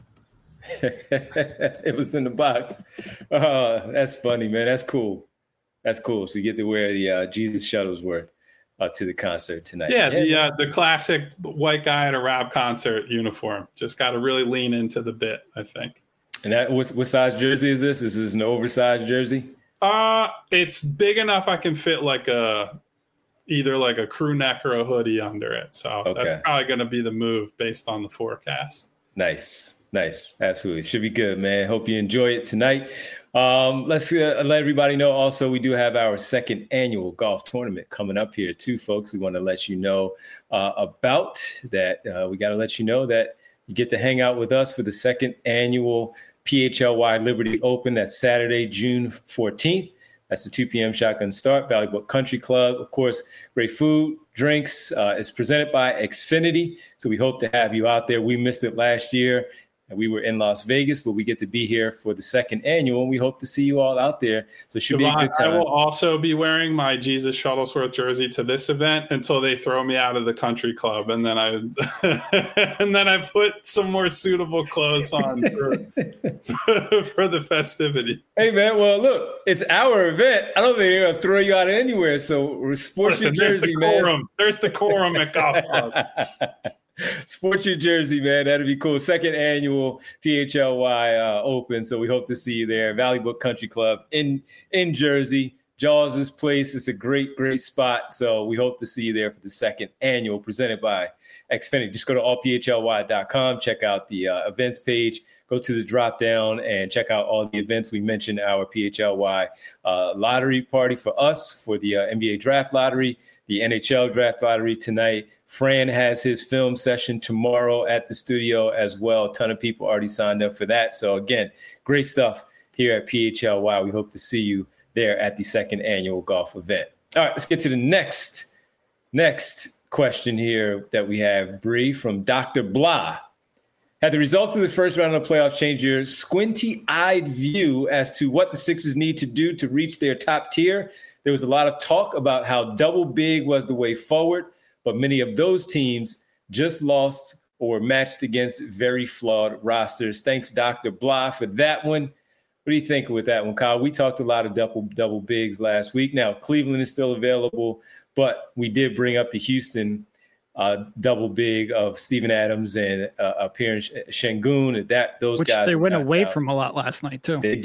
It was in the box. Oh, that's funny, man. That's cool. That's cool. So you get to wear the Jesus Shuttlesworth to the concert tonight. Yeah, the classic white guy at a rap concert uniform. Just got to really lean into the bit, I think. And that what size jersey is this? Is this an oversized jersey? It's big enough I can fit either like a crew neck or a hoodie under it. So That's probably going to be the move based on the forecast. Nice. Absolutely. Should be good, man. Hope you enjoy it tonight. Let's let everybody know also we do have our second annual golf tournament coming up here too, folks. We want to let you know about that. We got to let you know that you get to hang out with us for the second annual PHLY Liberty Open. That's Saturday, June 14th. That's the 2 p.m. shotgun start. Valley Brook Country Club. Of course, great food, drinks. It's presented by Xfinity. So we hope to have you out there. We missed it last year. And we were in Las Vegas, but we get to be here for the second annual, and we hope to see you all out there. So it should be a good time. I will also be wearing my Jesus Shuttlesworth jersey to this event until they throw me out of the country club, and then I put some more suitable clothes on for the festivity. Hey man, well look, it's our event. I don't think they're gonna throw you out anywhere. So sports your jersey, man. There's decorum at golf clubs. Sport your jersey, man. That'd be cool. Second annual PHLY Open. So we hope to see you there. Valley Brook Country Club in Jersey. Jaws' place. It's a great spot. So we hope to see you there for the second annual presented by Xfinity. Just go to allphly.com. Check out the events page. Go to the drop down and check out all the events. We mentioned our PHLY lottery party for us for the NBA draft lottery, the NHL draft lottery tonight. Fran has his film session tomorrow at the studio as well. A ton of people already signed up for that. So again, great stuff here at PHLY. We hope to see you there at the second annual golf event. All right, let's get to the next question here that we have, Bree, from Dr. Blah. Had the results of the first round of the playoffs change your squinty-eyed view as to what the Sixers need to do to reach their top tier? There was a lot of talk about how double big was the way forward, but many of those teams just lost or were matched against very flawed rosters. Thanks, Dr. Blah, for that one. What do you think with that one, Kyle? We talked a lot of double bigs last week. Now, Cleveland is still available, but we did bring up the Houston double big of Steven Adams and Pierre Sengun. Those Which guys they went away from a lot last night, too. They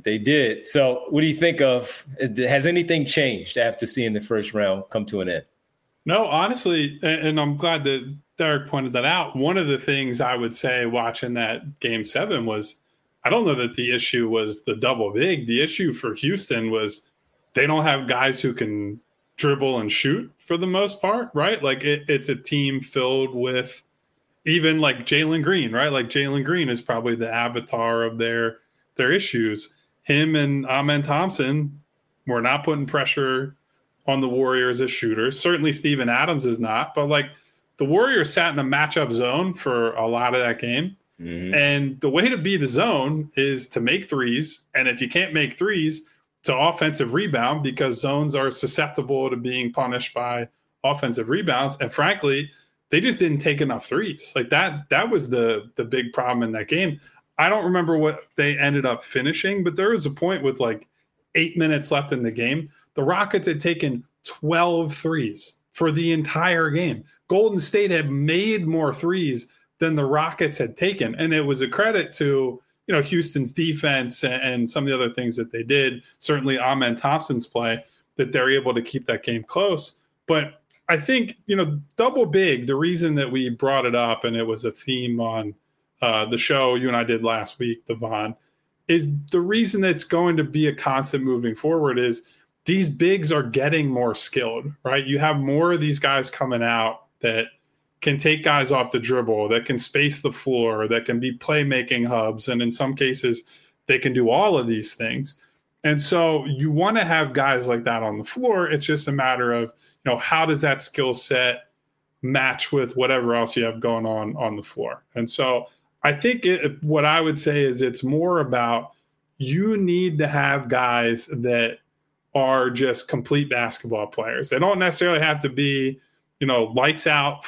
did. So what do you think of? Has anything changed after seeing the first round come to an end? No, honestly, and I'm glad that Derek pointed that out. One of the things I would say watching that Game 7 was, I don't know that the issue was the double big. The issue for Houston was they don't have guys who can dribble and shoot for the most part, right? Like it's a team filled with even like Jalen Green, right? Like Jalen Green is probably the avatar of their issues. Him and Amen Thompson were not putting pressure on the Warriors as shooters. Certainly Steven Adams is not, but like the Warriors sat in a matchup zone for a lot of that game. Mm-hmm. And the way to beat a zone is to make threes. And if you can't make threes, to offensive rebound, because zones are susceptible to being punished by offensive rebounds. And frankly, they just didn't take enough threes. Like that was the big problem in that game. I don't remember what they ended up finishing, but there was a point with like 8 minutes left in the game. The Rockets had taken 12 threes for the entire game. Golden State had made more threes than the Rockets had taken. And it was a credit to, Houston's defense and some of the other things that they did. Certainly Amen Thompson's play, that they're able to keep that game close. But I think, double big, the reason that we brought it up, and it was a theme on the show you and I did last week, Devon, is the reason that it's going to be a constant moving forward is these bigs are getting more skilled, right? You have more of these guys coming out that can take guys off the dribble, that can space the floor, that can be playmaking hubs. And in some cases, they can do all of these things. And so you want to have guys like that on the floor. It's just a matter of, how does that skill set match with whatever else you have going on the floor? And so I think what I would say is it's more about you need to have guys that are just complete basketball players. They don't necessarily have to be, lights out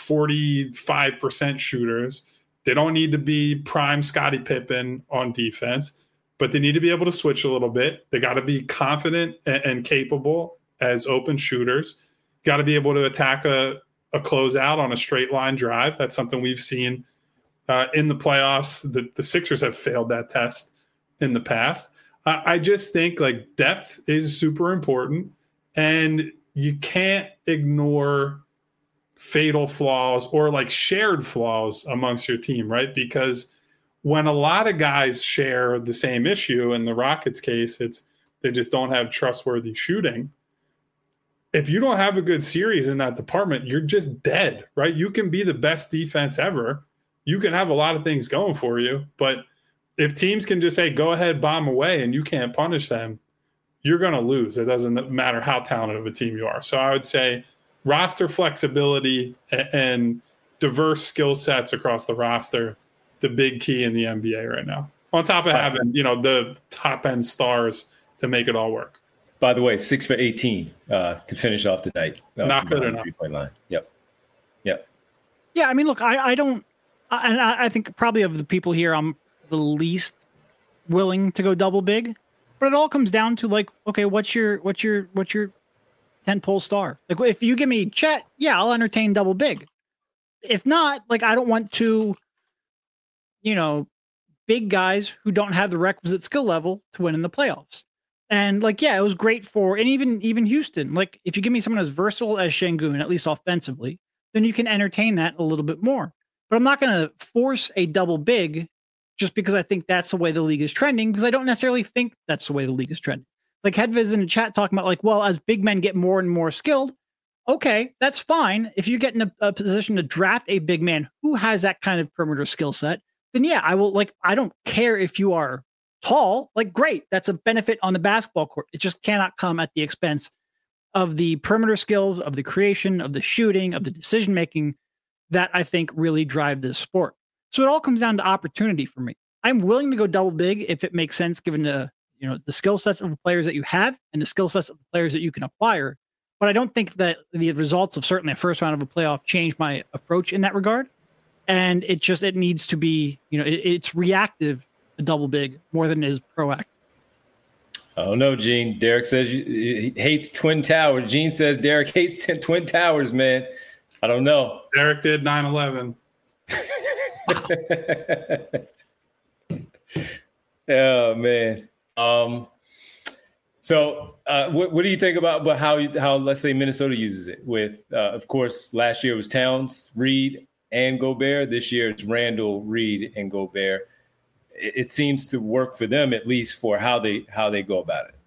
45% shooters. They don't need to be prime Scottie Pippen on defense, but they need to be able to switch a little bit. They got to be confident and capable as open shooters. Got to be able to attack a closeout on a straight line drive. That's something we've seen in the playoffs. The Sixers have failed that test in the past. I just think like depth is super important, and you can't ignore fatal flaws or like shared flaws amongst your team, right? Because when a lot of guys share the same issue, in the Rockets case, it's they just don't have trustworthy shooting. If you don't have a good series in that department, you're just dead, right? You can be the best defense ever. You can have a lot of things going for you, but if teams can just say, go ahead, bomb away, and you can't punish them, you're going to lose. It doesn't matter how talented of a team you are. So I would say roster flexibility and diverse skill sets across the roster, the big key in the NBA right now. On top of having, the top end stars to make it all work. By the way, 6 for 18 to finish off the night. Not good enough. 3-point line. Yep. Yeah, I mean, look, I don't, and I think probably of the people here, I'm the least willing to go double big, but it all comes down to like, okay, what's your 10-pole star? Like, if you give me Chet, yeah, I'll entertain double big. If not, like, I don't want to, big guys who don't have the requisite skill level to win in the playoffs. And like, yeah, it was great and even Houston. Like, if you give me someone as versatile as Şengün, at least offensively, then you can entertain that a little bit more. But I'm not going to force a double big just because I think that's the way the league is trending, because I don't necessarily think that's the way the league is trending. Like, Hedviz in the chat talking about like, well, as big men get more and more skilled, okay, that's fine. If you get in a position to draft a big man who has that kind of perimeter skill set, then yeah, I will. Like, I don't care if you are tall, like, great. That's a benefit on the basketball court. It just cannot come at the expense of the perimeter skills, of the creation, of the shooting, of the decision-making that I think really drive this sport. So it all comes down to opportunity for me. I'm willing to go double big if it makes sense, given the skill sets of the players that you have and the skill sets of the players that you can acquire. But I don't think that the results of certainly a first round of a playoff change my approach in that regard. And it needs to be, it's reactive, a double big, more than it is proactive. I don't know, Gene. Derek says he hates Twin Towers. Gene says Derek hates Twin Towers, man. I don't know. Derek did 9/11. Oh, man. So what do you think about how let's say Minnesota uses it with, of course, last year it was Towns, Reed, and Gobert. This year it's Randall, Reed, and Gobert. It seems to work for them, at least for how they go about it.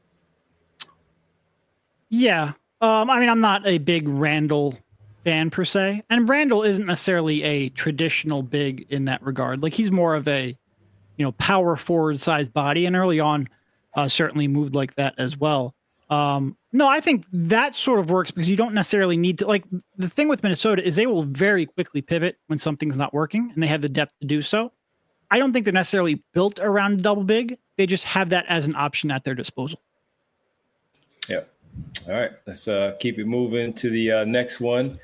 Yeah. I mean, I'm not a big Randall fan per se, and Randall isn't necessarily a traditional big in that regard. Like, he's more of a, power forward sized body, and early on certainly moved like that as well. No, I think that sort of works because you don't necessarily need to, like, the thing with Minnesota is they will very quickly pivot when something's not working, and they have the depth to do so. I don't think they're necessarily built around double big. They just have that as an option at their disposal. Yeah. All right. Let's keep it moving to the next one.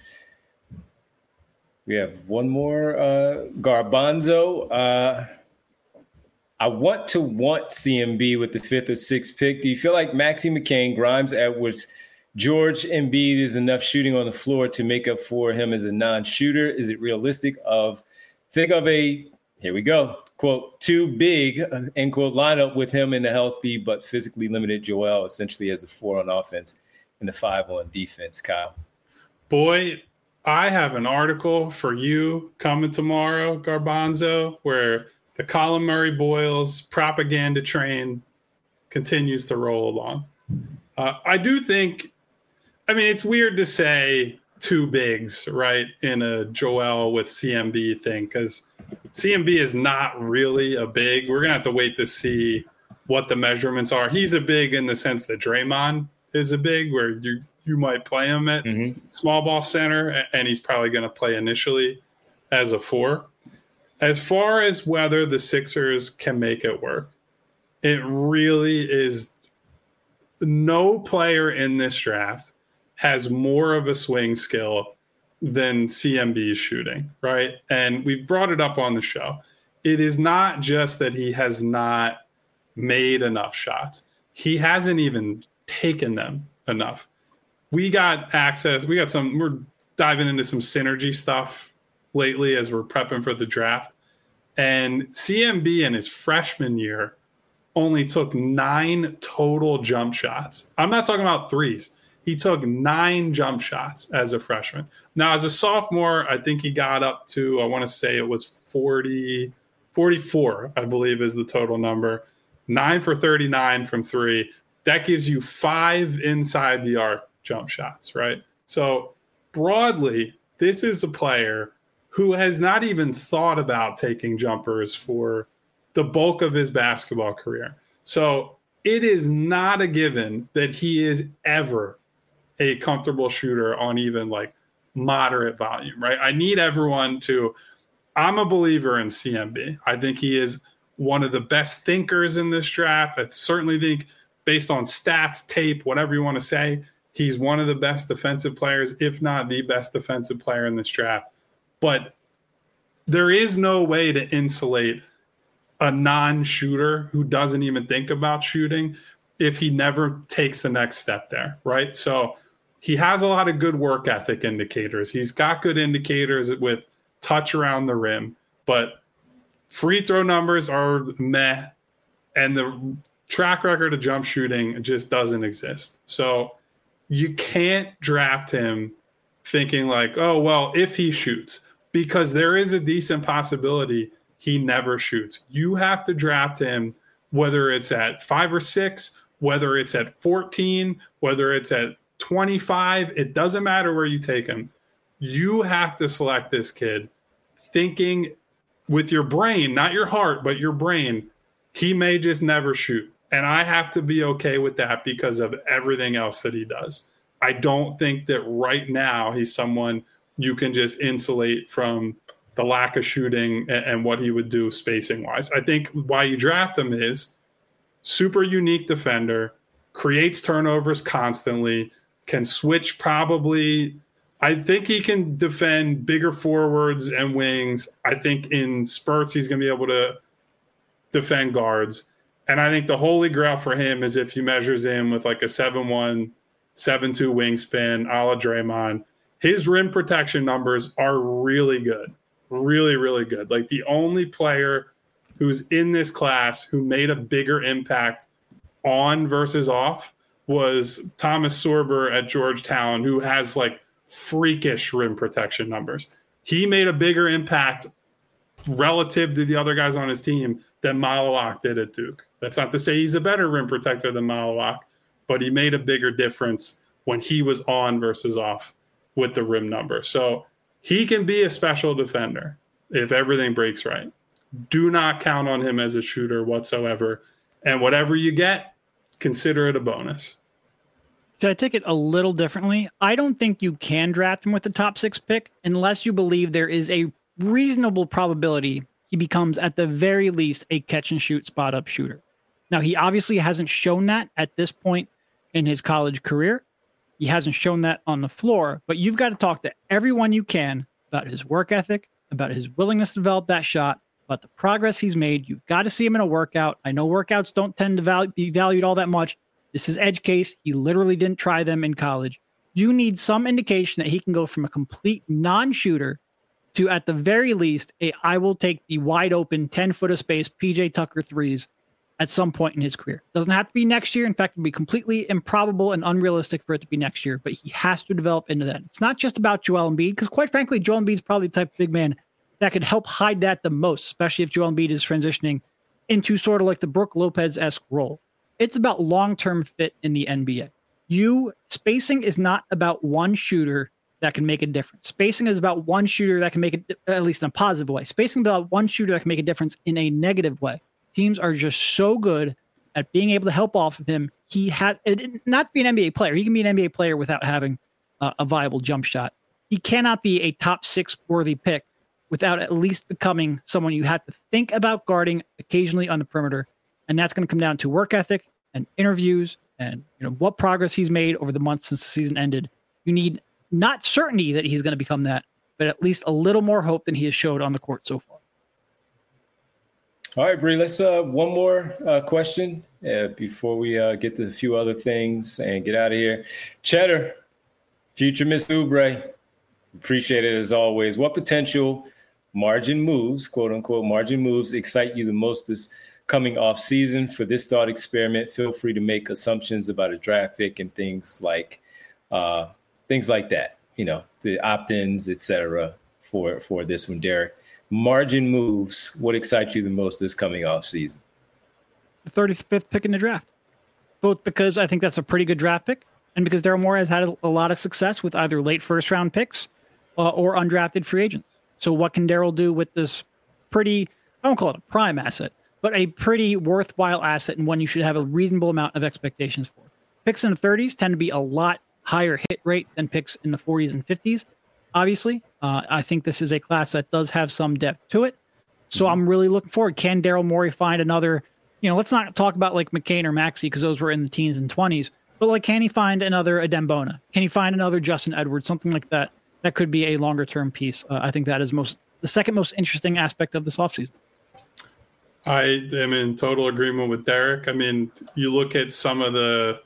We have one more. Garbanzo. I want CMB with the 5th or 6th pick. Do you feel like Maxey McCain, Grimes, Edwards, George Embiid is enough shooting on the floor to make up for him as a non-shooter? Is it realistic think of a, here we go, quote, too big, end quote, lineup with him in the healthy but physically limited Joel essentially as a 4 on offense and the 5 on defense, Kyle? Boy, I have an article for you coming tomorrow, Garbanzo, where the Colin Murray Boyles propaganda train continues to roll along. I do think, I mean, it's weird to say 2 bigs, right, in a Joel with CMB thing, because CMB is not really a big. We're going to have to wait to see what the measurements are. He's a big in the sense that Draymond is a big, where you might play him at small ball center, and he's probably going to play initially as a 4. As far as whether the Sixers can make it work, it really is, no player in this draft has more of a swing skill than CMB's shooting, right? And we've brought it up on the show. It is not just that he has not made enough shots. He hasn't even taken them enough. We're diving into some synergy stuff lately as we're prepping for the draft. And CMB in his freshman year only took 9 total jump shots. I'm not talking about threes. He took 9 jump shots as a freshman. Now, as a sophomore, I think he got up to, I want to say it was 44, I believe is the total number. 9 for 39 from 3. That gives you 5 inside the arc jump shots, right? So broadly, this is a player who has not even thought about taking jumpers for the bulk of his basketball career. So it is not a given that he is ever a comfortable shooter on even like moderate volume, right? I need everyone to, I'm a believer in CMB. I think he is one of the best thinkers in this draft. I certainly think based on stats, tape, whatever you want to say, he's one of the best defensive players, if not the best defensive player in this draft. But there is no way to insulate a non-shooter who doesn't even think about shooting if he never takes the next step there, right? So he has a lot of good work ethic indicators. He's got good indicators with touch around the rim, but free throw numbers are meh, and the track record of jump shooting just doesn't exist. So you can't draft him thinking like, oh, well, if he shoots, because there is a decent possibility he never shoots. You have to draft him, whether it's at 5 or 6, whether it's at 14, whether it's at 25. It doesn't matter where you take him. You have to select this kid thinking with your brain, not your heart, but your brain, he may just never shoot. And I have to be okay with that because of everything else that he does. I don't think that right now he's someone you can just insulate from the lack of shooting and what he would do spacing wise. I think why you draft him is super unique defender, creates turnovers constantly, can switch probably. I think he can defend bigger forwards and wings. I think in spurts, he's going to be able to defend guards. And I think the holy grail for him is if he measures in with like a 7'1", 7'2" wingspan, a la Draymond. His rim protection numbers are really good. Really, really good. Like the only player who's in this class who made a bigger impact on versus off was Thomas Sorber at Georgetown, who has like freakish rim protection numbers. He made a bigger impact relative to the other guys on his team than Malawak did at Duke. That's not to say he's a better rim protector than Malawak, but he made a bigger difference when he was on versus off with the rim number. So he can be a special defender if everything breaks right. Do not count on him as a shooter whatsoever. And whatever you get, consider it a bonus. So I take it a little differently. I don't think you can draft him with the top 6 pick unless you believe there is a reasonable probability he becomes at the very least a catch and shoot spot up shooter. Now, he obviously hasn't shown that at this point in his college career. He hasn't shown that on the floor, but you've got to talk to everyone you can about his work ethic, about his willingness to develop that shot, about the progress he's made. You've got to see him in a workout. I know workouts don't tend to be valued all that much. This is edge case. He literally didn't try them in college. You need some indication that he can go from a complete non-shooter to, at the very least, I will take the wide open 10-foot of space PJ Tucker threes at some point in his career. Doesn't have to be next year. In fact, it would be completely improbable and unrealistic for it to be next year, but he has to develop into that. It's not just about Joel Embiid, because quite frankly, Joel Embiid is probably the type of big man that could help hide that the most, especially if Joel Embiid is transitioning into sort of like the Brook Lopez-esque role. It's about long-term fit in the NBA. Spacing is not about one shooter that can make a difference. Spacing is about one shooter that can make it, at least in a positive way. Spacing is about one shooter that can make a difference in a negative way. Teams are just so good at being able to help off of him. He has not to be an NBA player. He can be an NBA player without having a viable jump shot. He cannot be a top 6 worthy pick without at least becoming someone you have to think about guarding occasionally on the perimeter. And that's going to come down to work ethic and interviews and what progress he's made over the months since the season ended. You need not certainty that he's going to become that, but at least a little more hope than he has showed on the court so far. All right, Bree, let's one more question before we get to a few other things and get out of here. Cheddar, future Mr. Oubre, appreciate it as always. What potential margin moves, quote unquote, margin moves excite you the most this coming off season for this thought experiment? Feel free to make assumptions about a draft pick and things like that, the opt-ins, et cetera, for this one, Derek. Margin moves, what excites you the most this coming off season? The 35th pick in the draft. Both because I think that's a pretty good draft pick, and because Daryl Morey has had a lot of success with either late first-round picks or undrafted free agents. So what can Daryl do with this pretty, I won't call it a prime asset, but a pretty worthwhile asset and one you should have a reasonable amount of expectations for? Picks in the 30s tend to be a lot higher hit rate than picks in the 40s and 50s. Obviously, I think this is a class that does have some depth to it. So I'm really looking forward. Can Daryl Morey find another, let's not talk about like McCain or Maxey because those were in the teens and 20s, but like, can he find another Adembona? Can he find another Justin Edwards? Something like that. That could be a longer term piece. I think that is the second most interesting aspect of this offseason. I am in total agreement with Derek. I mean, you look at some of the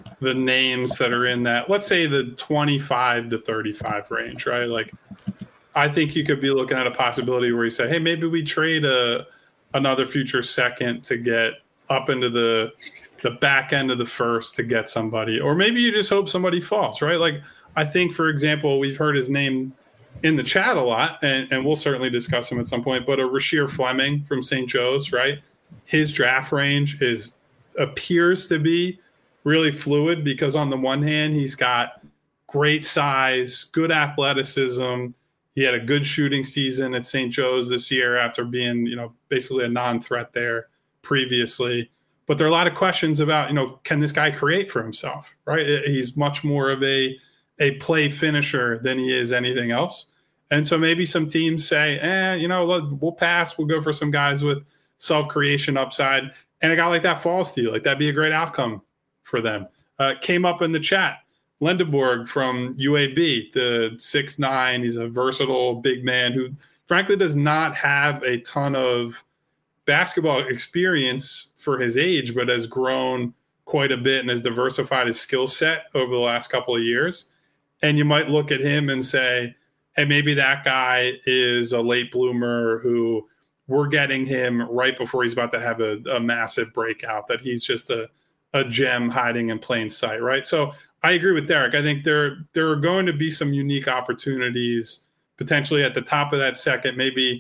names that are in that, let's say the 25 to 35 range, right? Like, I think you could be looking at a possibility where you say, hey, maybe we trade another future second to get up into the back end of the first to get somebody, or maybe you just hope somebody falls, right? Like, I think, for example, we've heard his name in the chat a lot, and we'll certainly discuss him at some point, but a Rasheer Fleming from St. Joe's, right? His draft range appears to be really fluid because on the one hand, he's got great size, good athleticism. He had a good shooting season at St. Joe's this year after being, basically a non-threat there previously. But there are a lot of questions about, can this guy create for himself, right? He's much more of a play finisher than he is anything else. And so maybe some teams say, we'll pass. We'll go for some guys with self-creation upside. And a guy like that falls to you. Like, that'd be a great outcome for them. Came up in the chat. Lendeborg from UAB, the 6'9". He's a versatile big man who, frankly, does not have a ton of basketball experience for his age, but has grown quite a bit and has diversified his skill set over the last couple of years. And you might look at him and say, hey, maybe that guy is a late bloomer who we're getting him right before he's about to have a massive breakout, that he's just a gem hiding in plain sight, right? So I agree with Derek. I think there are going to be some unique opportunities potentially at the top of that second, maybe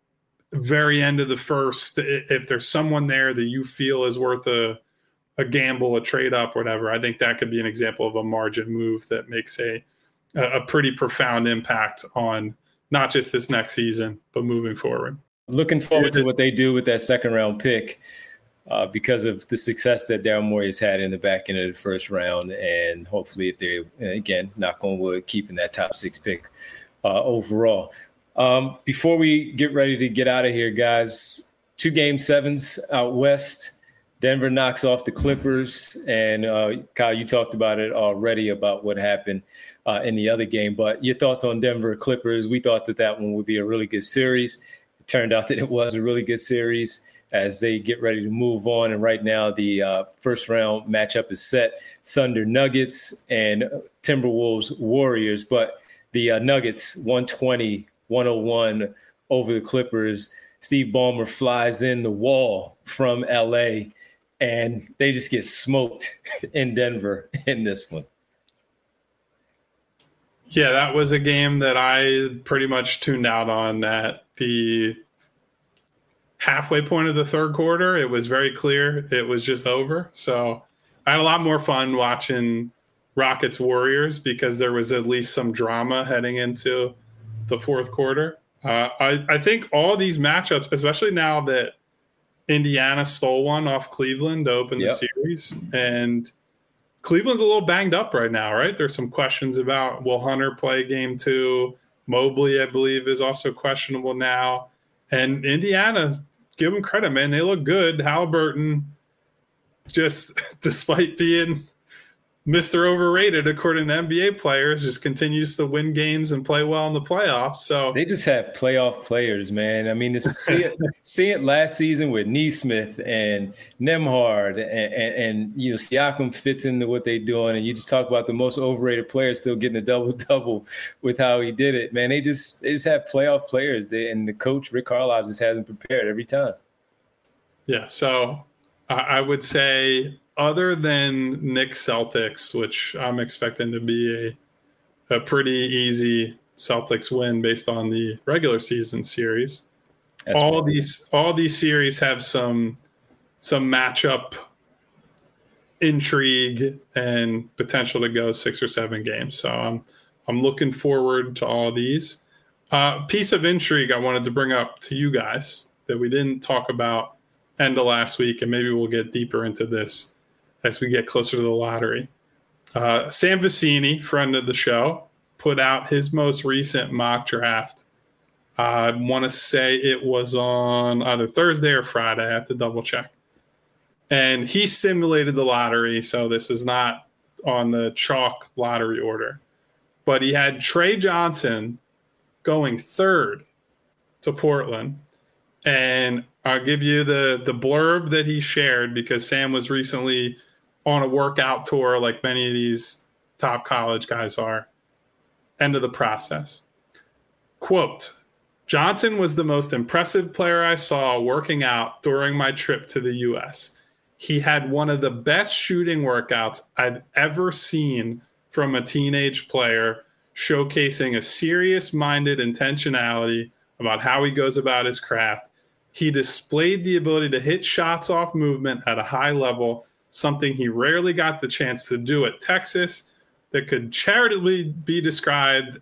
very end of the first, if there's someone there that you feel is worth a gamble, a trade up, whatever. I think that could be an example of a margin move that makes a pretty profound impact on not just this next season, but moving forward. Looking forward to what they do with that second round pick because of the success that Daryl Morey has had in the back end of the first round. And hopefully if they're, again, knock on wood, keeping that top 6 pick overall. Before we get ready to get out of here, guys, 2 Game 7s out west. Denver knocks off the Clippers, and Kyle, you talked about it already about what happened in the other game. But your thoughts on Denver Clippers? We thought that one would be a really good series. It turned out that it was a really good series as they get ready to move on. And right now, the first round matchup is set: Thunder Nuggets and Timberwolves Warriors. But the Nuggets 120-101 over the Clippers. Steve Ballmer flies in the wall from LA, and they just get smoked in Denver in this one. Yeah, that was a game that I pretty much tuned out on at the halfway point of the third quarter. It was very clear it was just over. So I had a lot more fun watching Rockets Warriors because there was at least some drama heading into the fourth quarter. I think all these matchups, especially now that Indiana stole one off Cleveland to open the series, and Cleveland's a little banged up right now, right? There's some questions about, will Hunter play game 2? Mobley, I believe, is also questionable now. And Indiana, give them credit, man. They look good. Halliburton, just despite being Mr. Overrated, according to NBA players, just continues to win games and play well in the playoffs. So they just have playoff players, man. I mean, see it last season with Nesmith and Nembhard, and Siakam fits into what they're doing. And you just talk about the most overrated player still getting a double-double with how he did it, man. They just have playoff players, and the coach Rick Carlisle just hasn't prepared every time. Yeah, so I would say, other than Knicks Celtics, which I'm expecting to be a pretty easy Celtics win based on the regular season series, all these series have some matchup intrigue and potential to go 6 or 7 games. So I'm looking forward to all these. Piece of intrigue I wanted to bring up to you guys that we didn't talk about end of last week, and maybe we'll get deeper into this as we get closer to the lottery. Sam Vecini, friend of the show, put out his most recent mock draft. I want to say it was on either Thursday or Friday. I have to double check. And he simulated the lottery, so this was not on the chalk lottery order. But he had Trey Johnson going third to Portland. And I'll give you the blurb that he shared, because Sam was recently on a workout tour like many of these top college guys are. End of the process. Quote, Johnson was the most impressive player I saw working out during my trip to the U.S. He had one of the best shooting workouts I've ever seen from a teenage player, showcasing a serious-minded intentionality about how he goes about his craft. He displayed the ability to hit shots off movement at a high level, something he rarely got the chance to do at Texas, that could charitably be described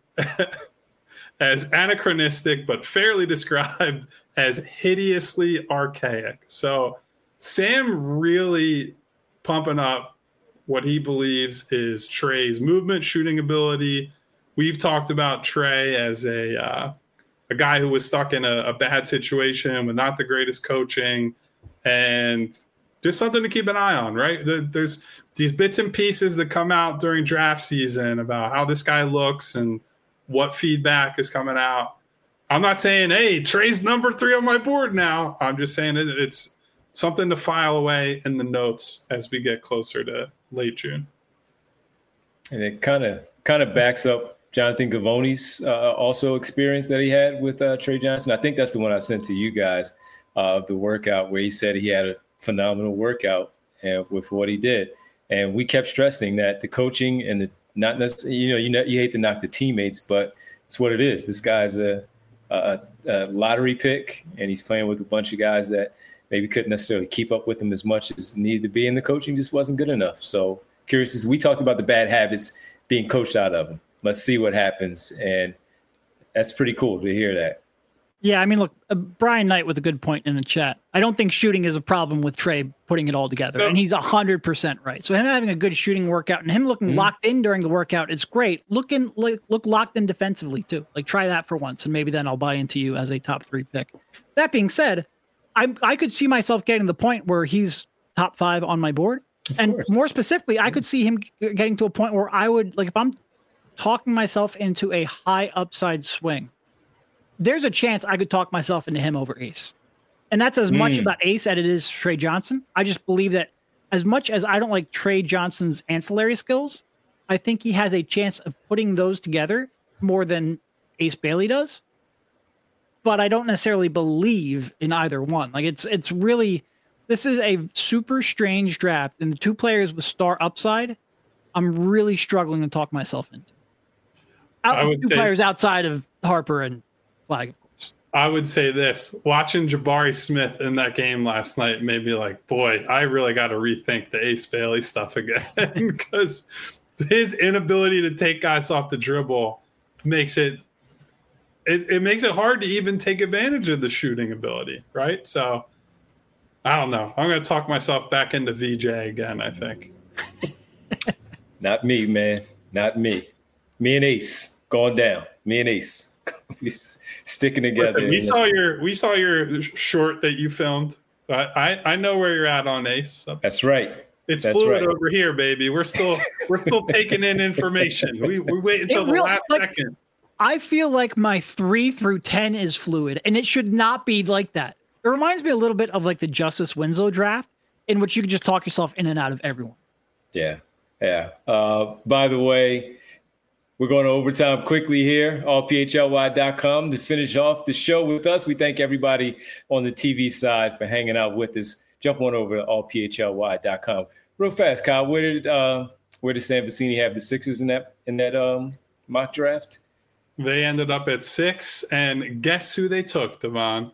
as anachronistic, but fairly described as hideously archaic. So Sam really pumping up what he believes is Trey's movement, shooting ability. We've talked about Trey as a guy who was stuck in a bad situation with not the greatest coaching, and just something to keep an eye on, right? There's these bits and pieces that come out during draft season about how this guy looks and what feedback is coming out. I'm not saying, hey, Trey's number 3 on my board now. I'm just saying it's something to file away in the notes as we get closer to late June. And it kind of backs up Jonathan Givony's also experience that he had with Trey Johnson. I think that's the one I sent to you guys of the workout, where he said he had a phenomenal workout with what he did. And we kept stressing that the coaching and the not necessarily, you hate to knock the teammates, but it's what it is. This guy's a lottery pick, and he's playing with a bunch of guys that maybe couldn't necessarily keep up with him as much as needed to be, and the coaching just wasn't good enough. So curious, as we talked about the bad habits being coached out of him. Let's see what happens, and that's pretty cool to hear that. Yeah, I mean, look, Brian Knight with a good point in the chat. I don't think shooting is a problem with Trey putting it all together, and he's 100% right. So him having a good shooting workout and him looking locked in during the workout, it's great. Look locked in defensively too. Like, try that for once, and maybe then I'll buy into you as a top 3 pick. That being said, I could see myself getting to the point where he's top 5 on my board, and more specifically, I could see him getting to a point where I would, like, if I'm talking myself into a high upside swing, there's a chance I could talk myself into him over Ace. And that's as much about Ace as it is Trey Johnson. I just believe that as much as I don't like Trey Johnson's ancillary skills, I think he has a chance of putting those together more than Ace Bailey does. But I don't necessarily believe in either one. Like, it's really, this is a super strange draft, and the 2 players with star upside, I'm really struggling to talk myself into. Two players outside of Harper and Flag, of course. I would say this. Watching Jabari Smith in that game last night made me like, boy, I really got to rethink the Ace Bailey stuff again, because his inability to take guys off the dribble makes it makes it hard to even take advantage of the shooting ability, right? So I don't know. I'm going to talk myself back into VJ again, I think. Not me, man. Not me. Me and Ace going down. Me and Ace. We sticking together. Listen, we saw your short that you filmed. I know where you're at on Ace. That's right. It's fluid over here, baby. We're still taking in information. We wait until the last second. I feel like my 3 through 10 is fluid, and it should not be like that. It reminds me a little bit of like the Justice Winslow draft, in which you could just talk yourself in and out of everyone. Yeah. By the way, we're going to overtime quickly here, allphly.com, to finish off the show with us. We thank everybody on the TV side for hanging out with us. Jump on over to allphly.com. Real fast, Kyle, where did Sam Vecini have the Sixers in that mock draft? They ended up at 6, and guess who they took, Devon?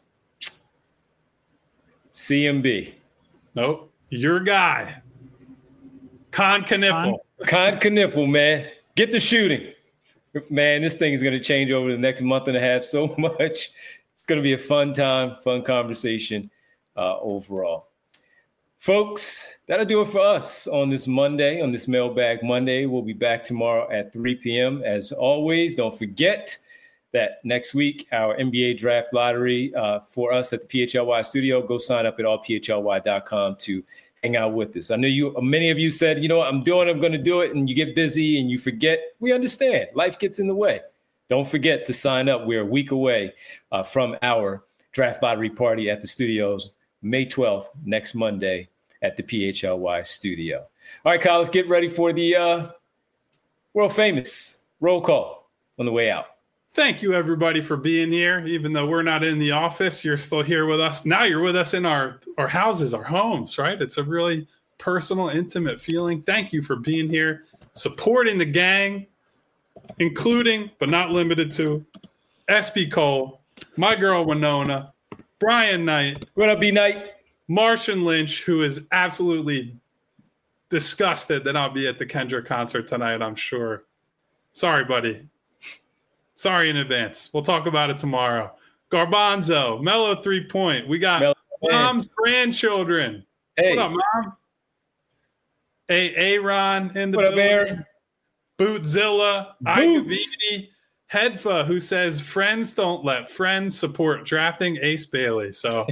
CMB. Nope. Your guy. Con Kniffel. Con Kniffel, man. Get the shooting. Man, this thing is going to change over the next month and a half so much. It's going to be a fun time, fun conversation overall. Folks, that'll do it for us on this Monday, on this Mailbag Monday. We'll be back tomorrow at 3 p.m. As always, don't forget that next week, our NBA draft lottery for us at the PHLY studio. Go sign up at allphly.com to hang out with us. I know many of you said, you know what, I'm going to do it, and you get busy and you forget. We understand. Life gets in the way. Don't forget to sign up. We're a week away from our draft lottery party at the studios, May 12th, next Monday at the PHLY studio. All right, Kyle, let's get ready for the world famous roll call on the way out. Thank you, everybody, for being here. Even though we're not in the office, you're still here with us. Now you're with us in our houses, our homes, right? It's a really personal, intimate feeling. Thank you for being here, supporting the gang, including, but not limited to, SB Cole, my girl Winona, Brian Knight. What up, B Knight? Martian Lynch, who is absolutely disgusted that I'll be at the Kendrick concert tonight, I'm sure. Sorry, buddy. Sorry in advance. We'll talk about it tomorrow. Garbanzo, Mellow 3 Point. We got Mom's grandchildren. Hey. What up, Mom? Aaron in the what building. Up, Aaron? Bootzilla. Igavini. Hedfa, who says friends don't let friends support drafting Ace Bailey. So,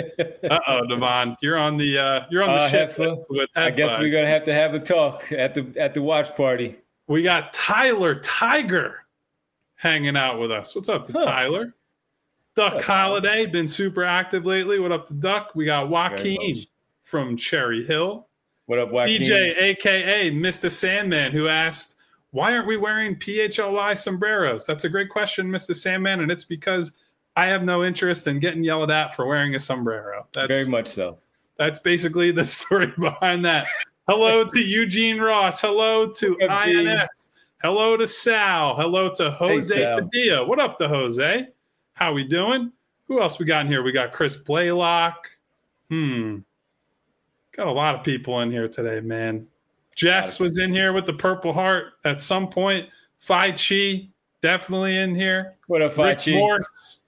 Devon, you're on the shit list with Hedfa. I guess we're gonna have to have a talk at the watch party. We got Tyler Tiger hanging out with us. What's up to Tyler? Duck Holiday, been super active lately. What up to Duck? We got Joaquin from Cherry Hill. What up, Joaquin? DJ, a.k.a. Mr. Sandman, who asked, why aren't we wearing PHLY sombreros? That's a great question, Mr. Sandman, and it's because I have no interest in getting yelled at for wearing a sombrero. Very much so. That's basically the story behind that. Hello to Eugene Ross. Hello to INS. Hello to Sal. Hello to Jose Padilla. What up to Jose? How we doing? Who else we got in here? We got Chris Blaylock. Got a lot of people in here today, man. Jess was in here with the Purple Heart at some point. Phi Chi, definitely in here. What up, Phi Chi? Morse,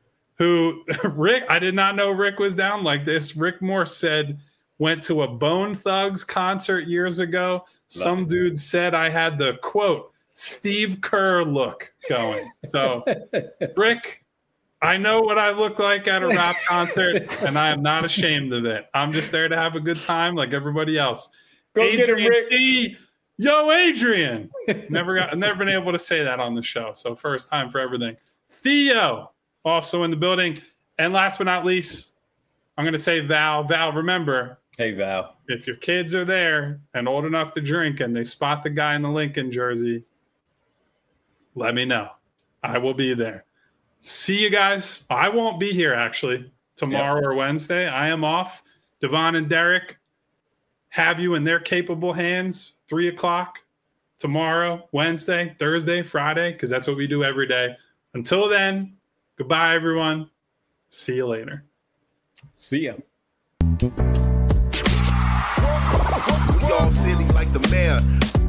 Rick, I did not know Rick was down like this. Rick Morse said, went to a Bone Thugs concert years ago. Some dude said I had the, quote, Steve Kerr look going. So, Rick, I know what I look like at a rap concert, and I am not ashamed of it. I'm just there to have a good time like everybody else. Go Adrian get him, Rick. D. Yo, Adrian. Never been able to say that on the show. So first time for everything. Theo, also in the building. And last but not least, I'm going to say Val. Val, remember. Hey, Val. If your kids are there and old enough to drink and they spot the guy in the Lincoln jersey, let me know. I will be there. See you guys. I won't be here, actually, tomorrow or Wednesday. I am off. Devon and Derek have you in their capable hands 3 o'clock tomorrow, Wednesday, Thursday, Friday, because that's what we do every day. Until then, goodbye, everyone. See you later. See ya. We all silly like the mayor.